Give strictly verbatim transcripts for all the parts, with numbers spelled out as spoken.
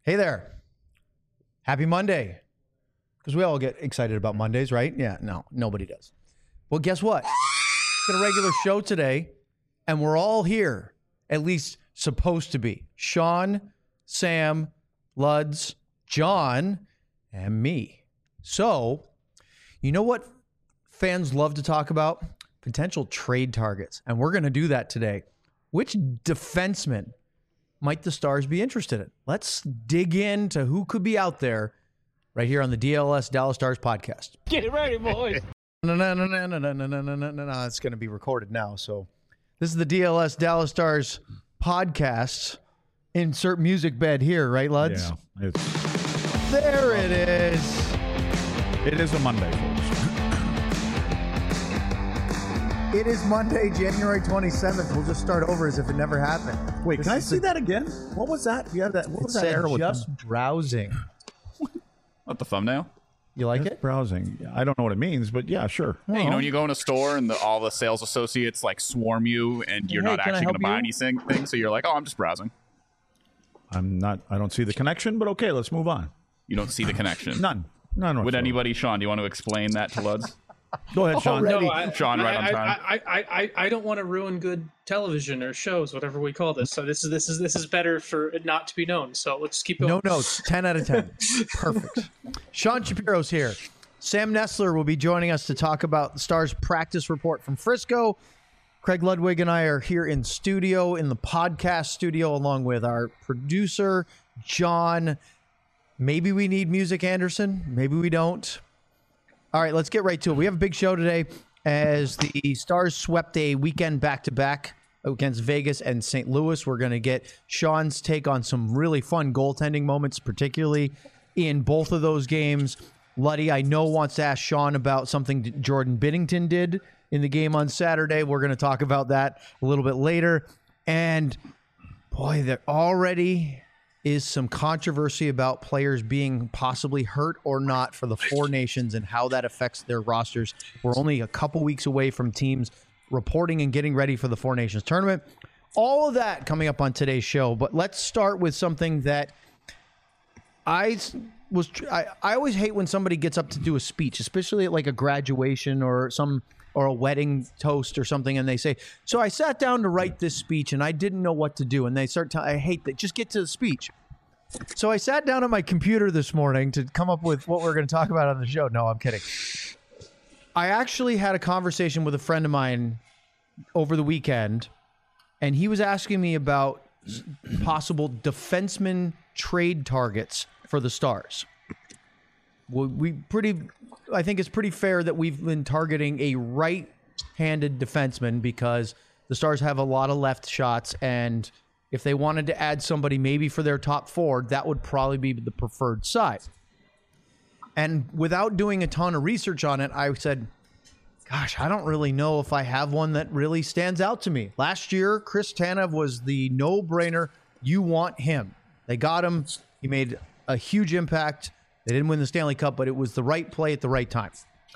Hey there. Happy Monday. Because we all get excited about Mondays, right? Yeah, no, nobody does. Well, guess what? It's a regular show today, and we're all here, at least supposed to be. Sean, Sam, Luds, John, and me. So, you know what fans love to talk about? Potential trade targets. And we're going to do that today. Which defenseman might the Stars be interested in? Let's dig into who could be out there right here on the D L S Dallas Stars podcast. Get ready, boys. No, no, no, no, no, no, no, no, no, no, no, no. It's going to be recorded now. So this is the D L S Dallas Stars podcast. Insert music bed here, right, Luds? Yeah. It's, there it is. it is a Monday, folks. It is Monday, January twenty-seventh. We'll just start over as if it never happened. Wait, This can I is see the- that again? What was that? You have that. What It was that said arrow with just them? browsing. What, the thumbnail? You like Just it? browsing. I don't know what it means, but yeah, sure. Hey, you know when you go in a store and the, all the sales associates like swarm you and you're Hey, not can I actually going to help buy you? anything, thing, so you're like, oh, I'm just browsing. I'm not. I don't see the connection, but okay, let's move on. You don't see the connection. None. None. Would whatsoever. anybody, Sean, do you want to explain that to Luds? Go ahead, Sean. Already. No, I, Sean, right on I, time. I, I, I, I don't want to ruin good television or shows, whatever we call this. So this is this is this is better for it not to be known. So let's keep going. No notes. ten out of ten. Perfect. Sean Shapiro's here. Sam Nestler will be joining us to talk about the Stars practice report from Frisco. Craig Ludwig and I are here in studio, in the podcast studio, along with our producer, John. Maybe we need Music Anderson. Maybe we don't. All right, let's get right to it. We have a big show today as the Stars swept a weekend back-to-back against Vegas and Saint Louis. We're going to get Sean's take on some really fun goaltending moments, particularly in both of those games. Luddy, I know, wants to ask Sean about something that Jordan Binnington did in the game on Saturday. We're going to talk about that a little bit later. And, boy, there already is some controversy about players being possibly hurt or not for the Four Nations and how that affects their rosters. We're only a couple weeks away from teams reporting and getting ready for the Four Nations tournament. All of that coming up on today's show. But let's start with something that I was I, I always hate when somebody gets up to do a speech, especially at like a graduation or some or a wedding toast or something, and they say, so I sat down to write this speech and I didn't know what to do. And they start to, I hate that. Just get to the speech. So I sat down at my computer this morning to come up with what we're going to talk about on the show. No, I'm kidding. I actually had a conversation with a friend of mine over the weekend, and he was asking me about possible defenseman trade targets for the Stars. We, we pretty, I think it's pretty fair that we've been targeting a right-handed defenseman because the Stars have a lot of left shots, and if they wanted to add somebody maybe for their top four, that would probably be the preferred side. And without doing a ton of research on it, I said, gosh, I don't really know if I have one that really stands out to me. Last year, Chris Tanev was the no-brainer. You want him. They got him. He made a huge impact. They didn't win the Stanley Cup, but it was the right play at the right time.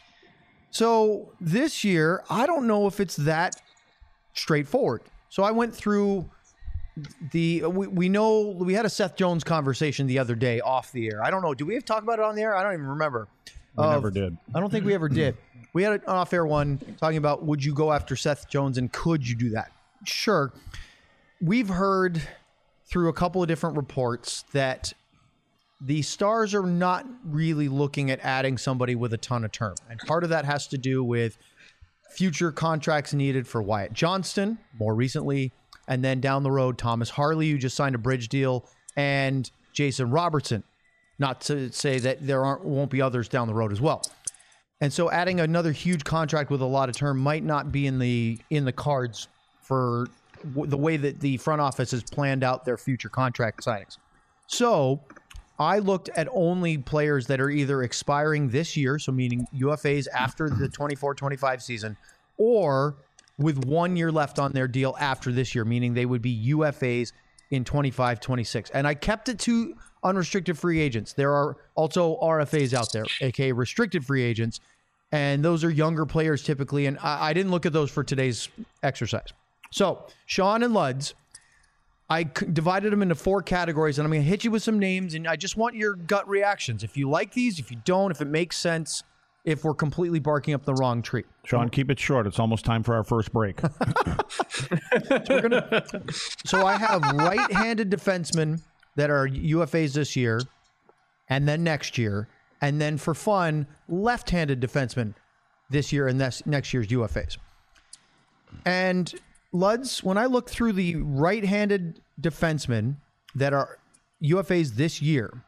So this year, I don't know if it's that straightforward. So I went through the, we, we know, we had a Seth Jones conversation the other day off the air. I don't know. Do we have talked about it on the air? I don't even remember. We Of- never did. I don't think we ever did. We had an off-air one talking about would you go after Seth Jones and could you do that? Sure. We've heard through a couple of different reports that the Stars are not really looking at adding somebody with a ton of term. And part of that has to do with future contracts needed for Wyatt Johnston, more recently, and then down the road, Thomas Harley, who just signed a bridge deal, and Jason Robertson. Not to say that there aren't won't be others down the road as well. And so adding another huge contract with a lot of term might not be in the in the cards for w- the way that the front office has planned out their future contract signings. So I looked at only players that are either expiring this year, so meaning U F As after the twenty-four twenty-five season, or with one year left on their deal after this year, meaning they would be U F As in twenty-five twenty-six. And I kept it to unrestricted free agents. There are also R F As out there, aka restricted free agents, and those are younger players typically, and I, I didn't look at those for today's exercise. So, Sean and Luds, I c- divided them into four categories, and I'm going to hit you with some names, and I just want your gut reactions. If you like these, if you don't, if it makes sense, if we're completely barking up the wrong tree. Sean, keep it short. It's almost time for our first break. So, we're gonna, so I have right-handed defensemen that are U F As this year, and then next year, and then for fun, left-handed defensemen this year and this, next year's U F As. And Luds, when I look through the right-handed defensemen that are U F As this year,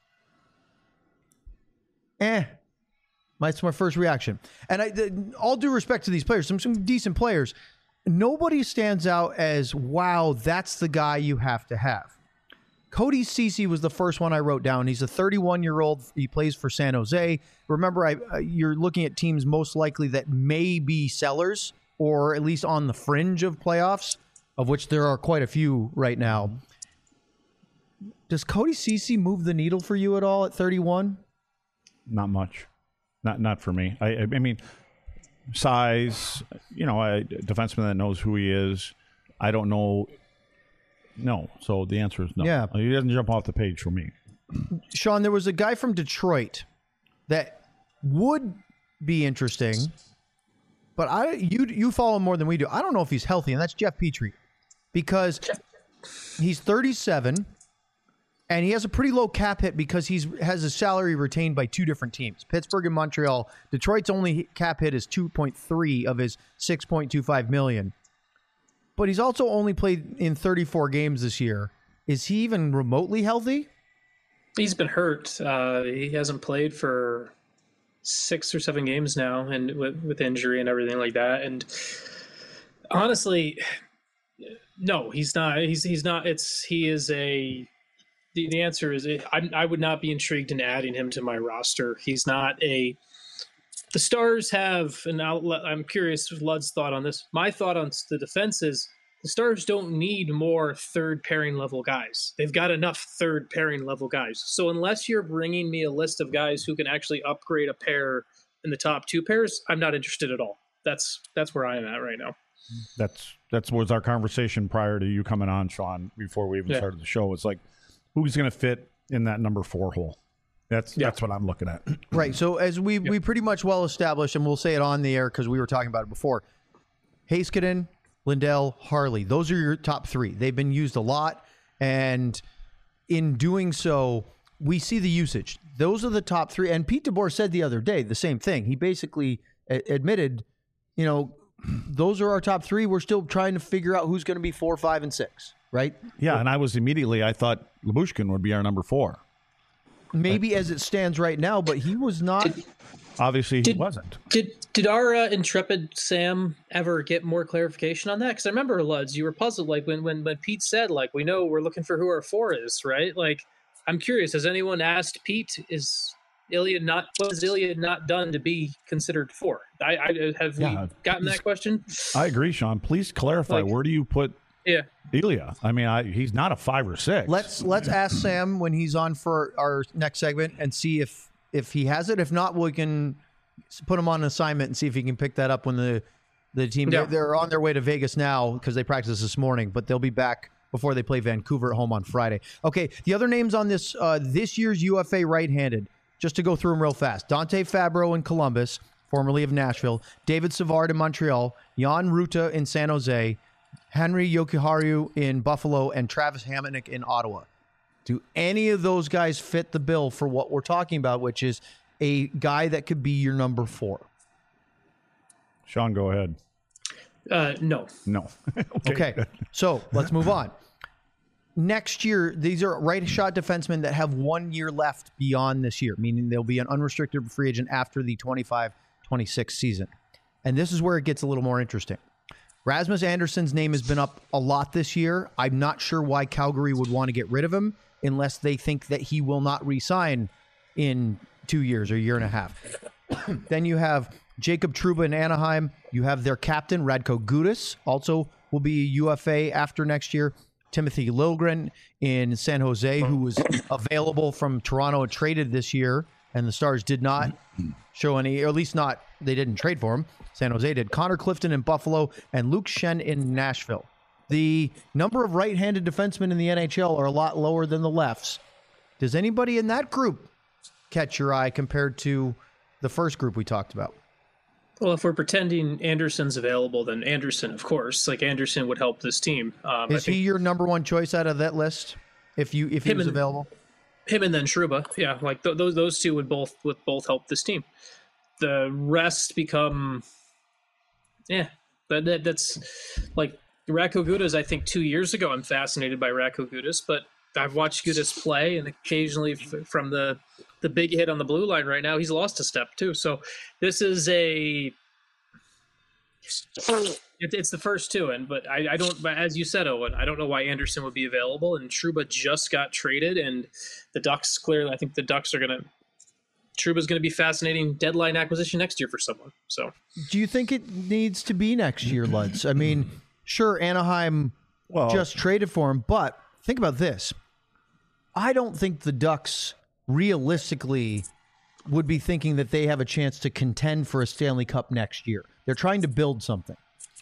eh, that's my first reaction. And I, the, all due respect to these players, some some decent players, nobody stands out as, wow, that's the guy you have to have. Cody Ceci was the first one I wrote down. He's a thirty-one-year-old. He plays for San Jose. Remember, I, uh, you're looking at teams most likely that may be sellers, or at least on the fringe of playoffs, of which there are quite a few right now. Does Cody Ceci move the needle for you at all at thirty-one? Not much. Not not for me. I I mean, size, you know, a defenseman that knows who he is. I don't know. No. So the answer is no. Yeah. He doesn't jump off the page for me. Sean, there was a guy from Detroit that would be interesting, but I you you follow him more than we do. I don't know if he's healthy, and that's Jeff Petrie, because he's thirty-seven, and he has a pretty low cap hit because he's has his salary retained by two different teams, Pittsburgh and Montreal. Detroit's only cap hit is two point three of his six point two five million, but he's also only played in thirty-four games this year. Is he even remotely healthy? He's been hurt. Uh, he hasn't played for six or seven games now, and with, with injury and everything like that. And honestly, no, he's not. He's he's not. It's he is a. The, the answer is I I would not be intrigued in adding him to my roster. He's not a. The Stars have, and I'll, I'm curious Lud's thought on this. My thought on the defense is the Stars don't need more third pairing level guys. They've got enough third pairing level guys. So unless you're bringing me a list of guys who can actually upgrade a pair in the top two pairs, I'm not interested at all. That's that's where I am at right now. That's that's was our conversation prior to you coming on, Sean, before we even Yeah. started the show. It's like, who's going to fit in that number four hole? That's Yeah. that's what I'm looking at. Right. So as we we pretty much well established, and we'll say it on the air because we were talking about it before, Heiskanen, Lindell, Harley, those are your top three. They've been used a lot, and in doing so, we see the usage. Those are the top three. And Pete DeBoer said the other day the same thing. He basically a- admitted, you know, those are our top three. We're still trying to figure out who's going to be four, five, and six, right? Yeah, and I was immediately, I thought Lyubushkin would be our number four. Maybe as it stands right now, but he was not. Obviously, he Did- wasn't. Did did our uh, intrepid Sam ever get more clarification on that? Because I remember, Luds, you were puzzled, like when, when when Pete said, like, we know we're looking for who our four is, right? Like, I'm curious. Has anyone asked Pete, is Ilya not what has Ilya not done to be considered four? I, I have Yeah. we gotten that question? I agree, Sean. Please clarify. Like- where do you put Yeah. Ilya? I mean, I, he's not a five or six. Let's let's ask Sam when he's on for our next segment and see if if he has it. If not, we can put him on an assignment and see if he can pick that up when the the team Yeah. they're, they're on their way to Vegas now because they practiced this morning, but they'll be back before they play Vancouver at home on Friday. Okay, the other names on this uh, this year's U F A right-handed, just to go through them real fast: Dante Fabro in Columbus, formerly of Nashville; David Savard in Montreal; Jan Ruta in San Jose; Henry Yokiharu in Buffalo; and Travis Hamonic in Ottawa. Do any of those guys fit the bill for what we're talking about, which is a guy that could be your number four? Sean, go ahead. Uh, no. No. Okay, so let's move on. Next year, these are right shot defensemen that have one year left beyond this year, meaning they'll be an unrestricted free agent after the twenty-five twenty-six season. And this is where it gets a little more interesting. Rasmus Anderson's name has been up a lot this year. I'm not sure why Calgary would want to get rid of him unless they think that he will not re-sign in two years or a year and a half. Then you have Jacob Trouba in Anaheim. You have their captain, Radko Gudas, also will be a U F A after next year. Timothy Liljegren in San Jose, who was available from Toronto and traded this year, and the Stars did not show any, or at least not, they didn't trade for him. San Jose did. Connor Clifton in Buffalo and Luke Shen in Nashville. The number of right-handed defensemen in the N H L are a lot lower than the lefts. Does anybody in that group catch your eye compared to the first group we talked about? Well, if we're pretending Anderson's available, then Anderson, of course. Like, Anderson would help this team. Um, Is he your number one choice out of that list? If you if he was and, available, him and then Trouba, yeah, like th- those those two would both would both help this team. The rest become, yeah, that, that that's like Radko Gudas. I think two years ago, I'm fascinated by Radko Gudas, but I've watched Gudas play, and occasionally f- from the the big hit on the blue line right now, he's lost a step too. So this is a it, it's the first two, and but I, I don't. But as you said, Owen, I don't know why Anderson would be available, and Trouba just got traded, and the Ducks clearly. I think the Ducks are gonna. Trouba's going to be fascinating deadline acquisition next year for someone. So, do you think it needs to be next year, Luds? I mean, sure, Anaheim Well, just traded for him, but think about this. I don't think the Ducks realistically would be thinking that they have a chance to contend for a Stanley Cup next year. They're trying to build something.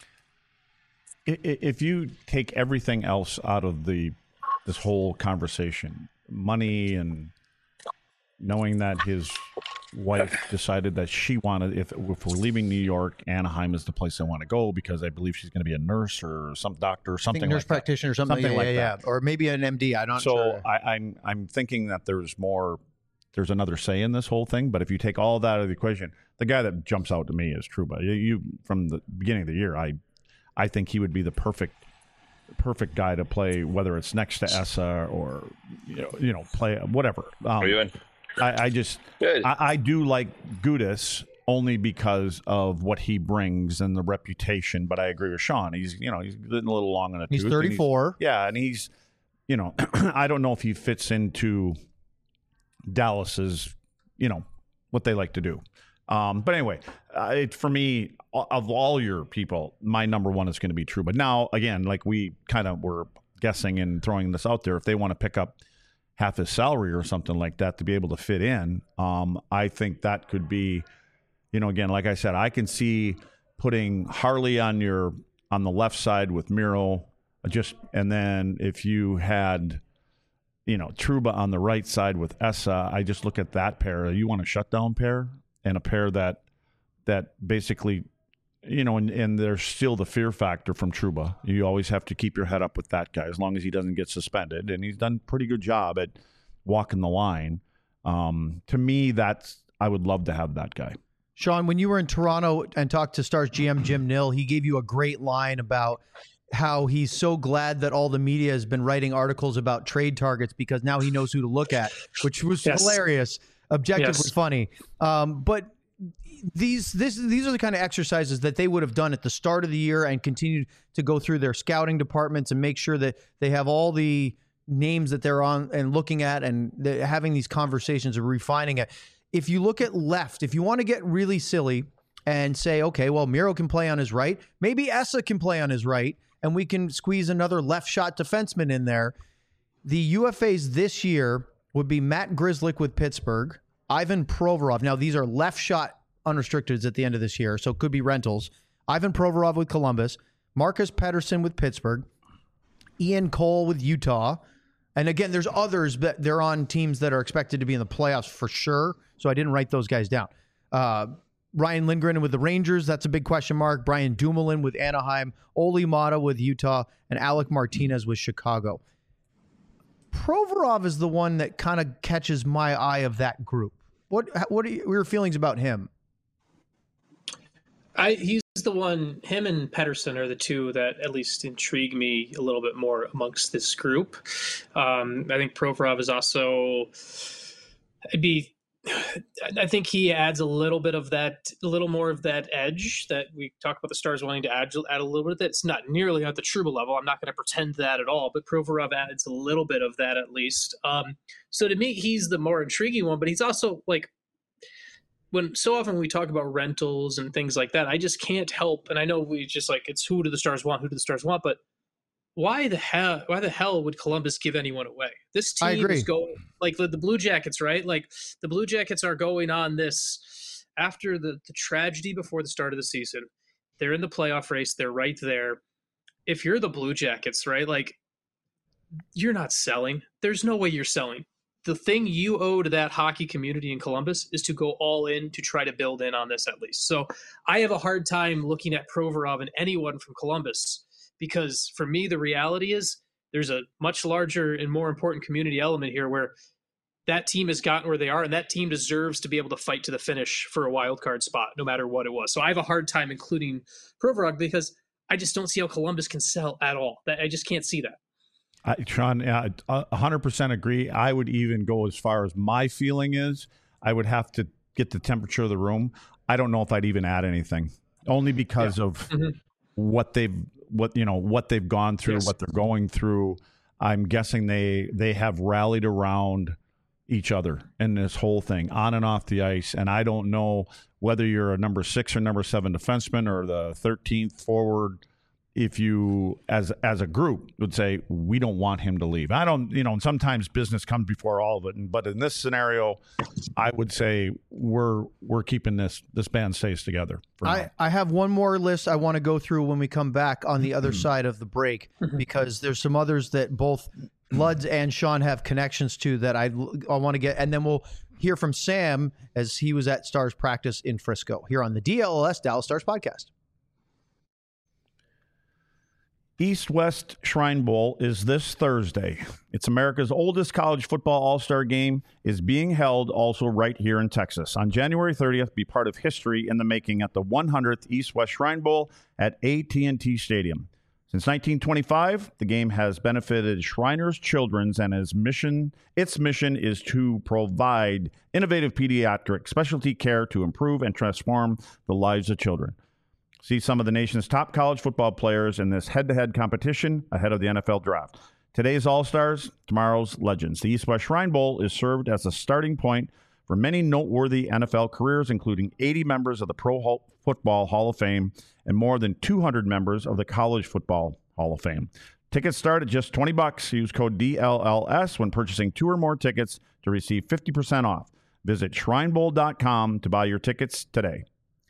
i- i- if you take everything else out of the this whole conversation, money and knowing that his wife decided that she wanted, if, if we're leaving New York, Anaheim is the place I want to go because I believe she's going to be a nurse or some doctor or I think something nurse like practitioner or something, Something yeah, like yeah, that. yeah. Or maybe an M D. I'm not that. So sure. I, I'm I'm thinking that there's more, there's another say in this whole thing. But if you take all that out of the equation, the guy that jumps out to me is Trouba. You, you from the beginning of the year, I I think he would be the perfect perfect guy to play, whether it's next to Essa or you know, you know play whatever. Um, How are you doing? I, I just Good. I, I do like Gudas only because of what he brings and the reputation. But I agree with Sean. He's you know he's getting a little long in the He's tooth, and thirty-four. yeah, and he's you know I don't know if he fits into Dallas's you know what they like to do. Um, but anyway, uh, it, for me, of all your people, my number one is going to be Trouba. But now, again, like we kind of were guessing and throwing this out there, if they want to pick up half his salary or something like that to be able to fit in, um, I think that could be, you know, again, like I said, I can see putting Harley on your on the left side with Miro, just and then if you had, you know, Trouba on the right side with Essa, I just look at that pair. You want a shutdown pair and a pair that that basically, you know, and, and there's still the fear factor from Trouba. You always have to keep your head up with that guy as long as he doesn't get suspended. And he's done a pretty good job at walking the line. Um, to me, that's I would love to have that guy. Sean, when you were in Toronto and talked to Stars G M Jim Nill, he gave you a great line about how he's so glad that all the media has been writing articles about trade targets because now he knows who to look at, which was Yes. hilarious, objectively Yes. funny. Um, but these this these are the kind of exercises that they would have done at the start of the year and continue to go through their scouting departments and make sure that they have all the names that they're on and looking at and they're having these conversations and refining it. If you look at left, if you want to get really silly and say, okay, well, Miro can play on his right, maybe Essa can play on his right, and we can squeeze another left shot defenseman in there. The U F As this year would be Matt Grzelcyk with Pittsburgh, Ivan Provorov. Now, these are left shot unrestricteds at the end of this year, so it could be rentals. Ivan Provorov with Columbus, Marcus Pettersson with Pittsburgh, Ian Cole with Utah. And again, there's others, but they're on teams that are expected to be in the playoffs for sure. So I didn't write those guys down. Uh, Ryan Lindgren with the Rangers, that's a big question mark. Brian Dumoulin with Anaheim, Oli Mata with Utah, and Alec Martinez with Chicago. Provorov is the one that kind of catches my eye of that group. What what are your feelings about him? I he's the one. Him and Pettersson are the two that at least intrigue me a little bit more amongst this group. Um, I think Provorov is also. I'd be. I think he adds a little bit of that, a little more of that edge that we talk about the Stars wanting to add, add a little bit of that. It's not nearly at the Trouba level. I'm not going to pretend that at all, but Provorov adds a little bit of that at least. Um, so to me, he's the more intriguing one, but he's also like, when so often we talk about rentals and things like that, I just can't help. And I know we just like, it's who do the Stars want? Who do the Stars want? But why the hell, why the hell would Columbus give anyone away? This I team agree. is going like the, the Blue Jackets, right? Like the Blue Jackets are going on this after the, the tragedy before the start of the season. They're in the playoff race. They're right there. if you're the Blue Jackets, right, like you're not selling. There's no way you're selling. The thing you owe to that hockey community in Columbus is to go all in to try to build in on this at least. So I have a hard time looking at Provorov and anyone from Columbus, because for me, the reality is there's a much larger and more important community element here where that team has gotten where they are, and that team deserves to be able to fight to the finish for a wild card spot, no matter what it was. So I have a hard time including Provorov because I just don't see how Columbus can sell at all. That I just can't see that. I, Sean, I one hundred percent agree. I would even go as far as my feeling is I would have to get the temperature of the room. I don't know if I'd even add anything, only because yeah. of mm-hmm. what they've what you know what they've gone through, yes. what they're going through. I'm guessing they they have rallied around each other in this whole thing, on and off the ice. And I don't know whether you're a number six or number seven defenseman or the thirteenth forward, if you, as as a group, would say, we don't want him to leave. I don't, you know, and sometimes business comes before all of it. But in this scenario, I would say we're we're keeping this this band stays together. For I, now. I have one more list I want to go through when we come back on the other side of the break, because there's some others that both Luds and Sean have connections to that I, I want to get. And then we'll hear from Sam as he was at Stars practice in Frisco here on the D L L S Dallas Stars podcast. East-West Shrine Bowl is this Thursday. It's America's oldest college football all-star game, is being held also right here in Texas. On January thirtieth, be part of history in the making at the one hundredth East-West Shrine Bowl at A T and T Stadium. Since nineteen twenty-five, the game has benefited Shriners Children's, and its mission, its mission is to provide innovative pediatric specialty care to improve and transform the lives of children. See some of the nation's top college football players in this head-to-head competition ahead of the N F L draft. Today's All-Stars, tomorrow's Legends. The East-West Shrine Bowl is served as a starting point for many noteworthy N F L careers, including eighty members of the Pro Football Hall of Fame and more than two hundred members of the College Football Hall of Fame. Tickets start at just twenty bucks. Use code D L L S when purchasing two or more tickets to receive fifty percent off. Visit shrine bowl dot com to buy your tickets today.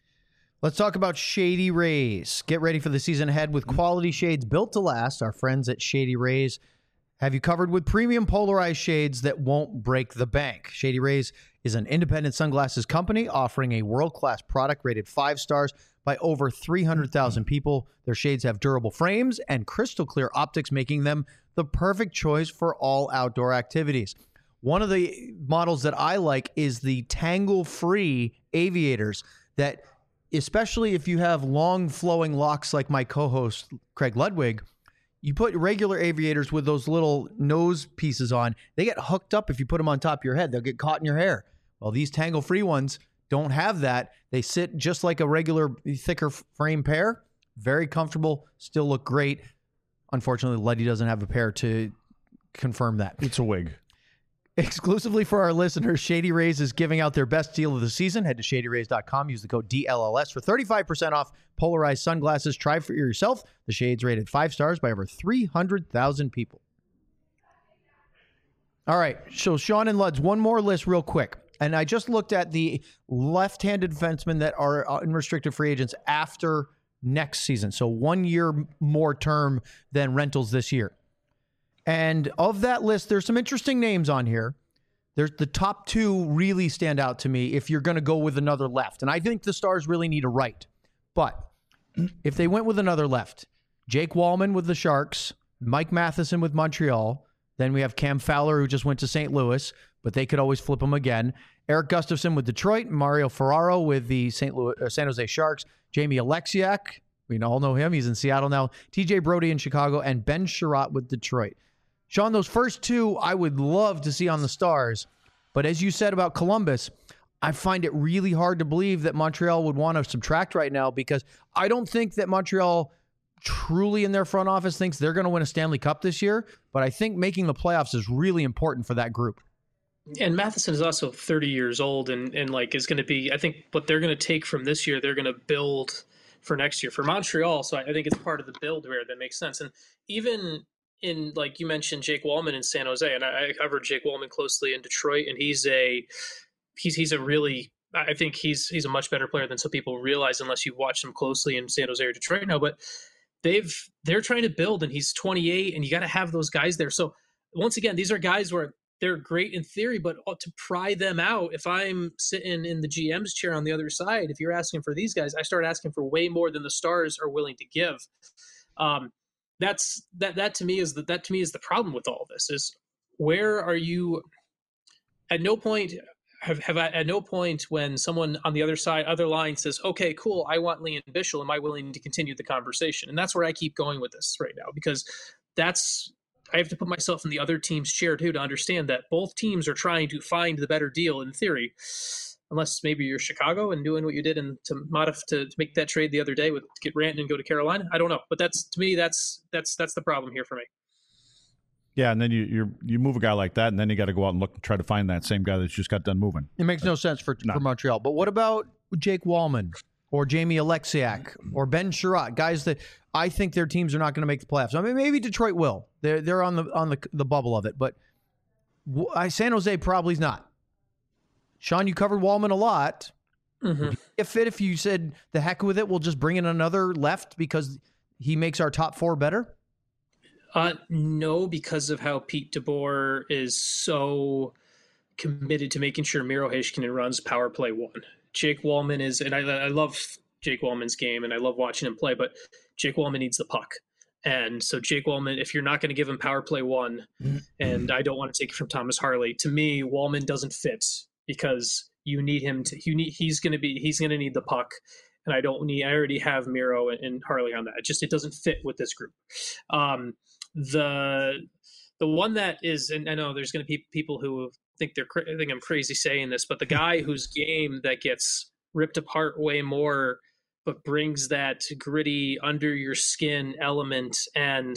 Let's talk about Shady Rays. Get ready for the season ahead with quality shades built to last. Our friends at Shady Rays have you covered with premium polarized shades that won't break the bank. Shady Rays is an independent sunglasses company offering a world-class product rated five stars by over three hundred thousand people. Their shades have durable frames and crystal clear optics, making them the perfect choice for all outdoor activities. One of the models that I like is the tangle-free aviators that, especially if you have long flowing locks like my co-host Craig Ludwig, you put regular aviators with those little nose pieces on, they get hooked up if you put them on top of your head. They'll get caught in your hair. Well, these tangle-free ones don't have that. They sit just like a regular thicker frame pair. Very comfortable, still look great. Unfortunately, Luddy doesn't have a pair to confirm that. It's a wig. Exclusively for our listeners, Shady Rays is giving out their best deal of the season. Head to shady rays dot com. Use the code D L L S for thirty-five percent off polarized sunglasses. Try for yourself. The shades rated five stars by over three hundred thousand people. All right, so Sean and Luds, one more list real quick. And I just looked at the left-handed defensemen that are unrestricted free agents after next season. So one year more term than rentals this year. And of that list, there's some interesting names on here. There's the top two really stand out to me if you're going to go with another left. And I think the Stars really need a right. But if they went with another left, Jake Wallman with the Sharks, Mike Matheson with Montreal, then we have Cam Fowler, who just went to Saint Louis, but they could always flip him again. Eric Gustafson with Detroit, Mario Ferraro with the Saint Louis, uh, San Jose Sharks, Jamie Alexiak, we all know him, he's in Seattle now, T J Brody in Chicago, and Ben Sherratt with Detroit. Sean, those first two I would love to see on the Stars, but as you said about Columbus, I find it really hard to believe that Montreal would want to subtract right now, because I don't think that Montreal truly in their front office thinks they're going to win a Stanley Cup this year, but I think making the playoffs is really important for that group. And Matheson is also thirty years old and, and like is going to be, I think what they're going to take from this year, they're going to build for next year for Montreal. So I, I think it's part of the build where that makes sense. And even in, like you mentioned, Jake Wallman in San Jose, and I, I covered Jake Wallman closely in Detroit, and he's a, he's, he's a really, I think he's, he's a much better player than some people realize unless you watch him closely in San Jose or Detroit now. But they've they're trying to build, and he's twenty-eight, and you got to have those guys there. So once again, these are guys where they're great in theory, but to pry them out, if I'm sitting in the G M's chair on the other side, if you're asking for these guys, I start asking for way more than the Stars are willing to give. Um, that's that that to me is the, that to me is the problem with all this is where are you? At no point have have I, at no point when someone on the other side, other line says, "Okay, cool, I want Lian Bichsel. Am I willing to continue the conversation?" And that's where I keep going with this right now because that's. I have to put myself in the other team's chair too to understand that both teams are trying to find the better deal in theory, unless maybe you're Chicago and doing what you did and to modify to, to make that trade the other day with to get Ranton and go to Carolina. I don't know, but that's to me that's that's that's the problem here for me. Yeah, and then you you you move a guy like that, and then you got to go out and look and try to find that same guy that's just got done moving. It makes no sense for No. for Montreal. But what about Jake Wallman or Jamie Alexiak or Ben Sherratt, guys that I think their teams are not going to make the playoffs. I mean, maybe Detroit will. They're they're on the on the the bubble of it, but I, San Jose probably is not. Sean, you covered Wallman a lot. Mm-hmm. If it if you said the heck with it, we'll just bring in another left because he makes our top four better. Uh, no, because of how Pete DeBoer is so committed to making sure Miro Heiskanen runs power play one. Jake Wallman is, and I, I love Jake Wallman's game, and I love watching him play, but Jake Wallman needs the puck. And so Jake Wallman, if you're not going to give him power play one, and I don't want to take it from Thomas Harley, to me, Wallman doesn't fit because you need him to, you need, he's going to be, he's going to need the puck. And I don't need, I already have Miro and, and Harley on that. It just, it doesn't fit with this group. Um, the, the one that is, and I know there's going to be people who think they're, I think I'm crazy saying this, but the guy whose game that gets ripped apart way more, but brings that gritty under your skin element. And,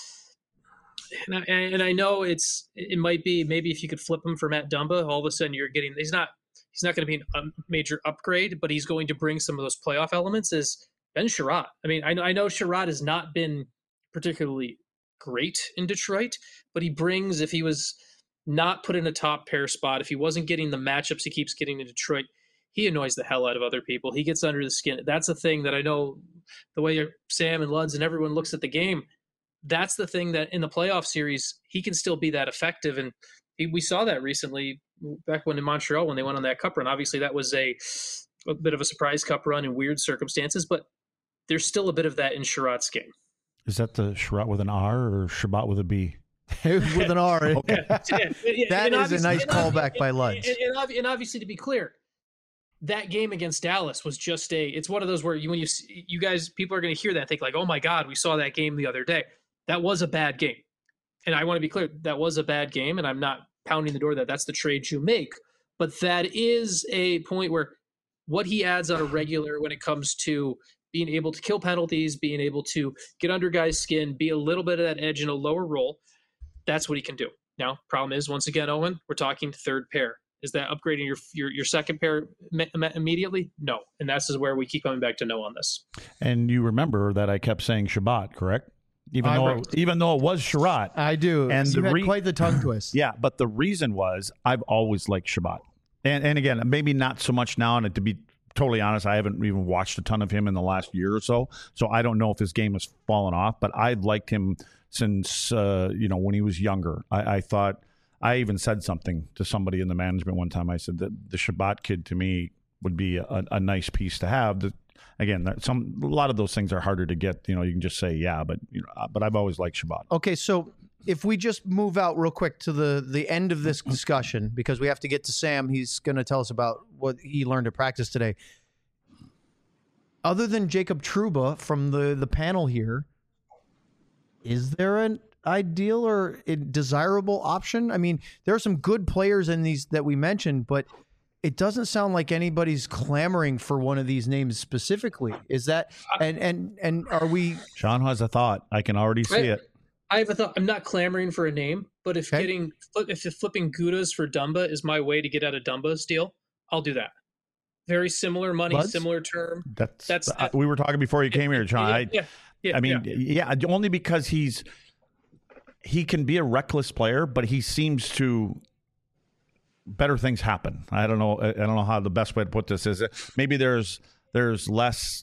and I, and I know it's, it might be, maybe if you could flip him for Matt Dumba, all of a sudden you're getting, he's not, he's not going to be a major upgrade, but he's going to bring some of those playoff elements is Ben Sherratt. I mean, I know, I know Sherratt has not been particularly great in Detroit, but he brings, if he was not put in a top pair spot, if he wasn't getting the matchups he keeps getting in Detroit, he annoys the hell out of other people. He gets under the skin. That's the thing that I know the way Sam and Luds and everyone looks at the game. That's the thing that in the playoff series, he can still be that effective. And he, we saw that recently back when in Montreal, when they went on that cup run. Obviously that was a, a bit of a surprise cup run in weird circumstances, but there's still a bit of that in Sherratt's game. Is that the Sherratt with an R or Shabbat with a B? With an R. Okay. Yeah, yeah, That and is a nice and callback and, by and, Luds. And, and, and obviously, to be clear, that game against Dallas was just a, it's one of those where you, when you, you guys, people are going to hear that and think like, oh my God, we saw that game the other day. That was a bad game. And I want to be clear, that was a bad game. And I'm not pounding the door that that's the trade you make, but that is a point where what he adds on a regular when it comes to being able to kill penalties, being able to get under guys' skin, be a little bit of that edge in a lower role, that's what he can do. Now, problem is, once again, Owen, we're talking third pair. Is that upgrading your your, your second pair me- immediately? No. And that's is where we keep coming back to no on this. And you remember that I kept saying Shabbat, correct? Even I though remember. it, even though it was Sherratt. I do. And you the had re- quite the tongue twist. Yeah, but the reason was I've always liked Shabbat. And and again, maybe not so much now, and to be totally honest, I haven't even watched a ton of him in the last year or so, so I don't know if his game has fallen off, but I've liked him since, uh, you know, when he was younger. I, I thought, I even said something to somebody in the management one time. I said that the Shabbat kid to me would be a, a nice piece to have. The, again, that some a lot of those things are harder to get. You know, you can just say, yeah, but you know, but I've always liked Shabbat. Okay, so if we just move out real quick to the the end of this discussion, because we have to get to Sam. He's going to tell us about what he learned at practice today. Other than Jacob Trouba from the, the panel here, is there an ideal or a desirable option? I mean, there are some good players in these that we mentioned, but it doesn't sound like anybody's clamoring for one of these names specifically. Is that and and and are we? Sean has a thought. I can already see I, it. I have a thought. I'm not clamoring for a name, but if Okay. getting if flipping Gudas for Dumba is my way to get out of Dumba's deal, I'll do that. Very similar money, Buds? similar term. That's, That's- I, we were talking before you came here, Sean. Yeah, I, yeah, yeah, I mean, yeah. yeah. only because he's he can be a reckless player, but he seems to better things happen. I don't know. I don't know how the best way to put this is. Maybe there's there's less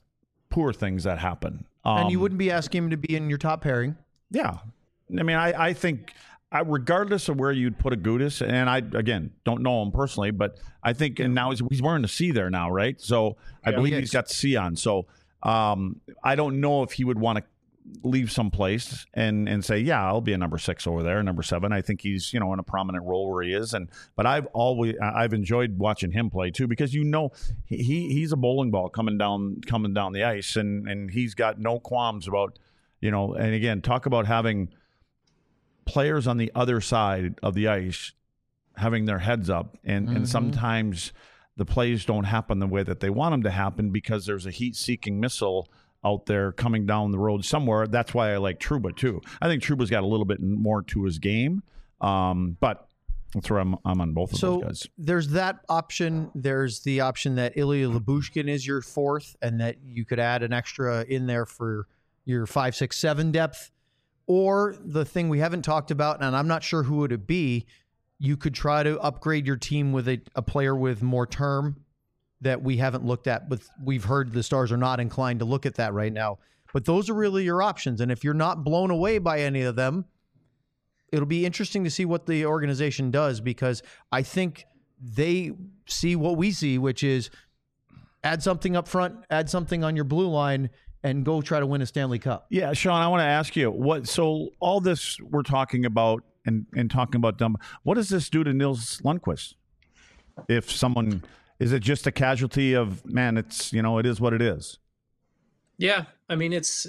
poor things that happen. Um, and you wouldn't be asking him to be in your top pairing. Yeah. I mean, I, I think I, regardless of where you'd put a Agudas, and I, again, don't know him personally, but I think, and now he's, he's wearing the C there now, right? So I Yeah, believe he he's is. got C on. So um, I don't know if he would want to leave someplace and and say, yeah, I'll be a number six over there, number seven. I think he's, you know, in a prominent role where he is. And but I've always I've enjoyed watching him play too, because you know he he's a bowling ball coming down coming down the ice, and and he's got no qualms about, you know, and again, talk about having players on the other side of the ice having their heads up, and Mm-hmm. and sometimes the plays don't happen the way that they want them to happen because there's a heat-seeking missile out there coming down the road somewhere. That's why I like Trouba too. I think Trouba's got a little bit more to his game, um, but that's where I'm, I'm on both of So those guys. there's that option. There's the option that Ilya Lyubushkin is your fourth, and that you could add an extra in there for your five, six, seven depth. Or the thing we haven't talked about, and I'm not sure who it would be, you could try to upgrade your team with a, a player with more term that we haven't looked at. But we've heard the Stars are not inclined to look at that right now. But those are really your options. And if you're not blown away by any of them, it'll be interesting to see what the organization does, because I think they see what we see, which is add something up front, add something on your blue line, and go try to win a Stanley Cup. Yeah, Sean, I want to ask you what. So all this we're talking about and and talking about dumb. What does this do to Nils Lundqvist? If someone is it just a casualty of, man? It's, you know, it is what it is. Yeah, I mean, it's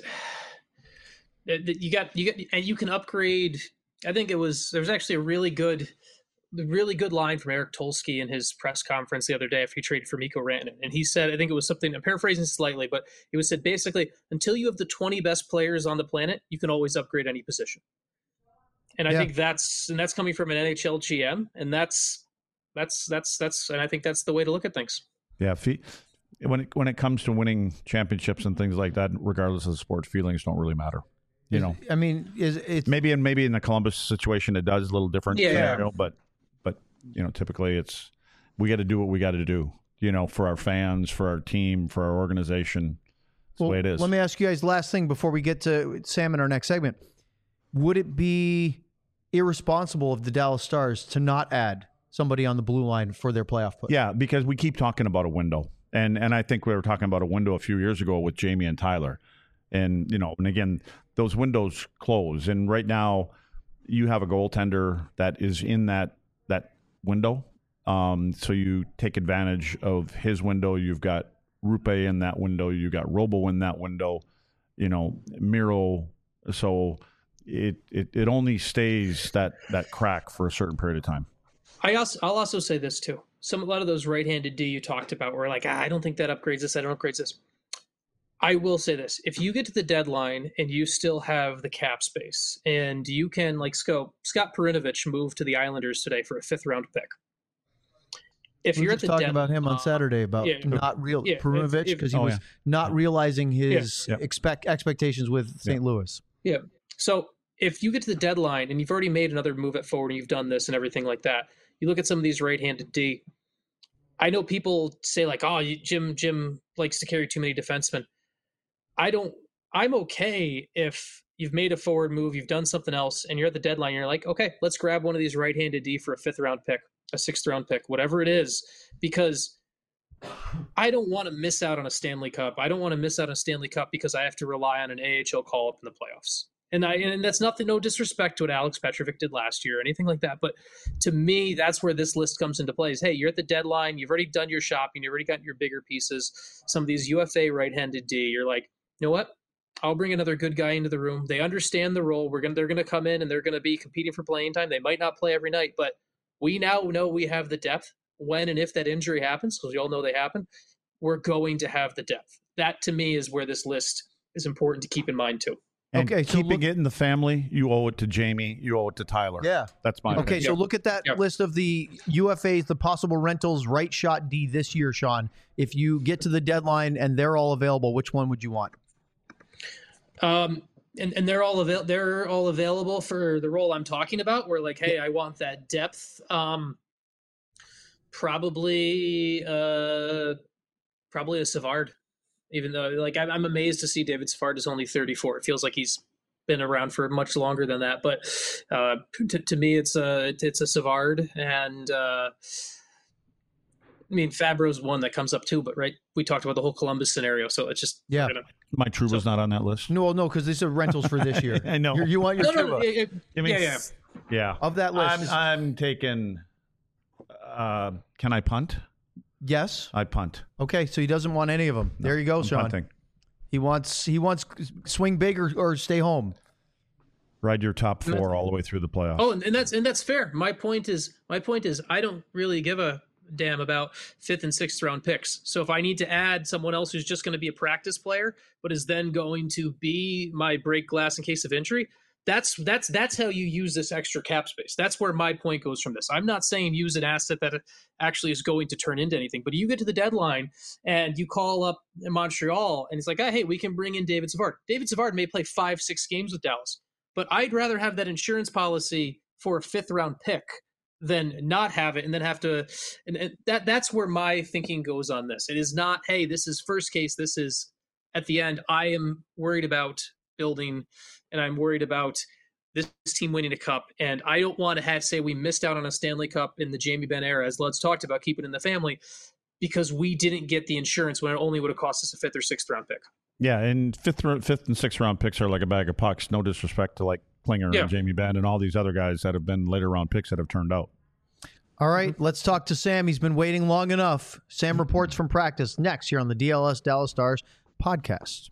you got you got and you can upgrade. I think it was there was actually a really good, really good line from Eric Tolsky in his press conference the other day after he traded for Mikko Rantanen, and he said, I think it was something, I'm paraphrasing slightly, but it was said basically, until you have the twenty best players on the planet, you can always upgrade any position. And I Yeah. think that's and that's coming from an N H L G M, and that's that's that's that's and I think that's the way to look at things. Yeah, fe- when it when it comes to winning championships and things like that, regardless of the sport, feelings don't really matter. You know, I mean, is it's maybe in maybe in the Columbus situation it does a little different. Yeah. scenario, but but you know, typically it's we got to do what we got to do. You know, for our fans, for our team, for our organization. That's well, the way it is. Let me ask you guys last thing before we get to Sam in our next segment. Would it be irresponsible of the Dallas Stars to not add somebody on the blue line for their playoff push? Yeah, because we keep talking about a window. And and I think we were talking about a window a few years ago with Jamie and Tyler. And, you know, and again, those windows close. And right now you have a goaltender that is in that that window. Um, so you take advantage of his window. You've got Rupe in that window. You've got Robo in that window, you know, Miro. So it, it, it only stays that, that crack for a certain period of time. I also I'll also say this too. Some a lot of those right-handed D you talked about were like, ah, I don't think that upgrades this. I don't upgrades this. I will say this: if you get to the deadline and you still have the cap space, and you can, like Scope, Scott Perinovich moved to the Islanders today for a fifth round pick. If We you're were at just the talking deadline, about him on Saturday about yeah. not real Yeah, if- Perunovic if- because he Oh, was yeah. not realizing his Yeah. Yep. expect expectations with Saint Louis. Yeah. So if you get to the deadline and you've already made another move at forward and you've done this and everything like that, you look at some of these right-handed D. I know people say like, "Oh, you, Jim Jim likes to carry too many defensemen." I don't. I'm okay if you've made a forward move, you've done something else, and you're at the deadline. You're like, okay, let's grab one of these right-handed D for a fifth-round pick, a sixth-round pick, whatever it is, because I don't want to miss out on a Stanley Cup. I don't want to miss out on a Stanley Cup because I have to rely on an A H L call-up in the playoffs. And I and that's nothing, no disrespect to what Alex Petrovic did last year or anything like that. But to me, that's where this list comes into play is, hey, you're at the deadline. You've already done your shopping. You've already gotten your bigger pieces. Some of these U F A right-handed D, you're like, you know what? I'll bring another good guy into the room. They understand the role. We're gonna they're gonna come in and they're gonna be competing for playing time. They might not play every night, but we now know we have the depth when and if that injury happens, because you all know they happen. We're going to have the depth. That to me is where this list is important to keep in mind too. And Okay, so keeping look- it in the family, you owe it to Jamie, you owe it to Tyler. Yeah. That's my Okay, opinion. so look at that Yeah. list of the U F As, the possible rentals, right shot D this year, Sean. If you get to the deadline and they're all available, which one would you want? Um, and, and they're all avail- they're all available for the role I'm talking about. Where like, hey, I want that depth. Um, probably, uh, probably a Savard Even though, like, I'm, I'm amazed to see David Savard is only thirty-four. It feels like he's been around for much longer than that. But uh, to, to me, it's a it's a Savard, and uh, I mean Fabro's one that comes up too. But right, we talked about the whole Columbus scenario, so it's just Yeah. you know, Mike Trouba's So- not on that list. No, no, because these are rentals for this year. I know. You're, you want your no, no, Trouba. no, it- it- I mean, yeah, yeah. Yeah. Of that list, I'm, is- I'm taking. Uh, can I punt? yes. I punt. Okay, so he doesn't want any of them. There you go, I'm Sean. punting. He wants he wants swing big or, or stay home. Ride your top four all the way through the playoffs. Oh, and, and that's and that's fair. My point is, my point is, I don't really give a damn about fifth and sixth round picks. So if I need to add someone else who's just going to be a practice player, but is then going to be my break glass in case of injury, that's that's that's how you use this extra cap space. That's where my point goes from this. I'm not saying use an asset that actually is going to turn into anything, but you get to the deadline and you call up Montreal and it's like, oh, hey, we can bring in David Savard. David Savard may play five, six games with Dallas, but I'd rather have that insurance policy for a fifth round pick than not have it and then have to. And, and that that's where my thinking goes on this. It is not, hey, this is first case. This is at the end. I am worried about building, and I'm worried about this team winning a cup. And I don't want to have say we missed out on a Stanley Cup in the Jamie Benn era, as Lud's talked about, keep it in the family, because we didn't get the insurance when it only would have cost us a fifth or sixth round pick. Yeah, and fifth, ro- fifth and sixth round picks are like a bag of pucks. No disrespect to like Klinger Yeah. and Jamie Benn and all these other guys that have been later round picks that have turned out. All right, let's talk to Sam. He's been waiting long enough. Sam reports from practice next here on the D L S Dallas Stars podcast.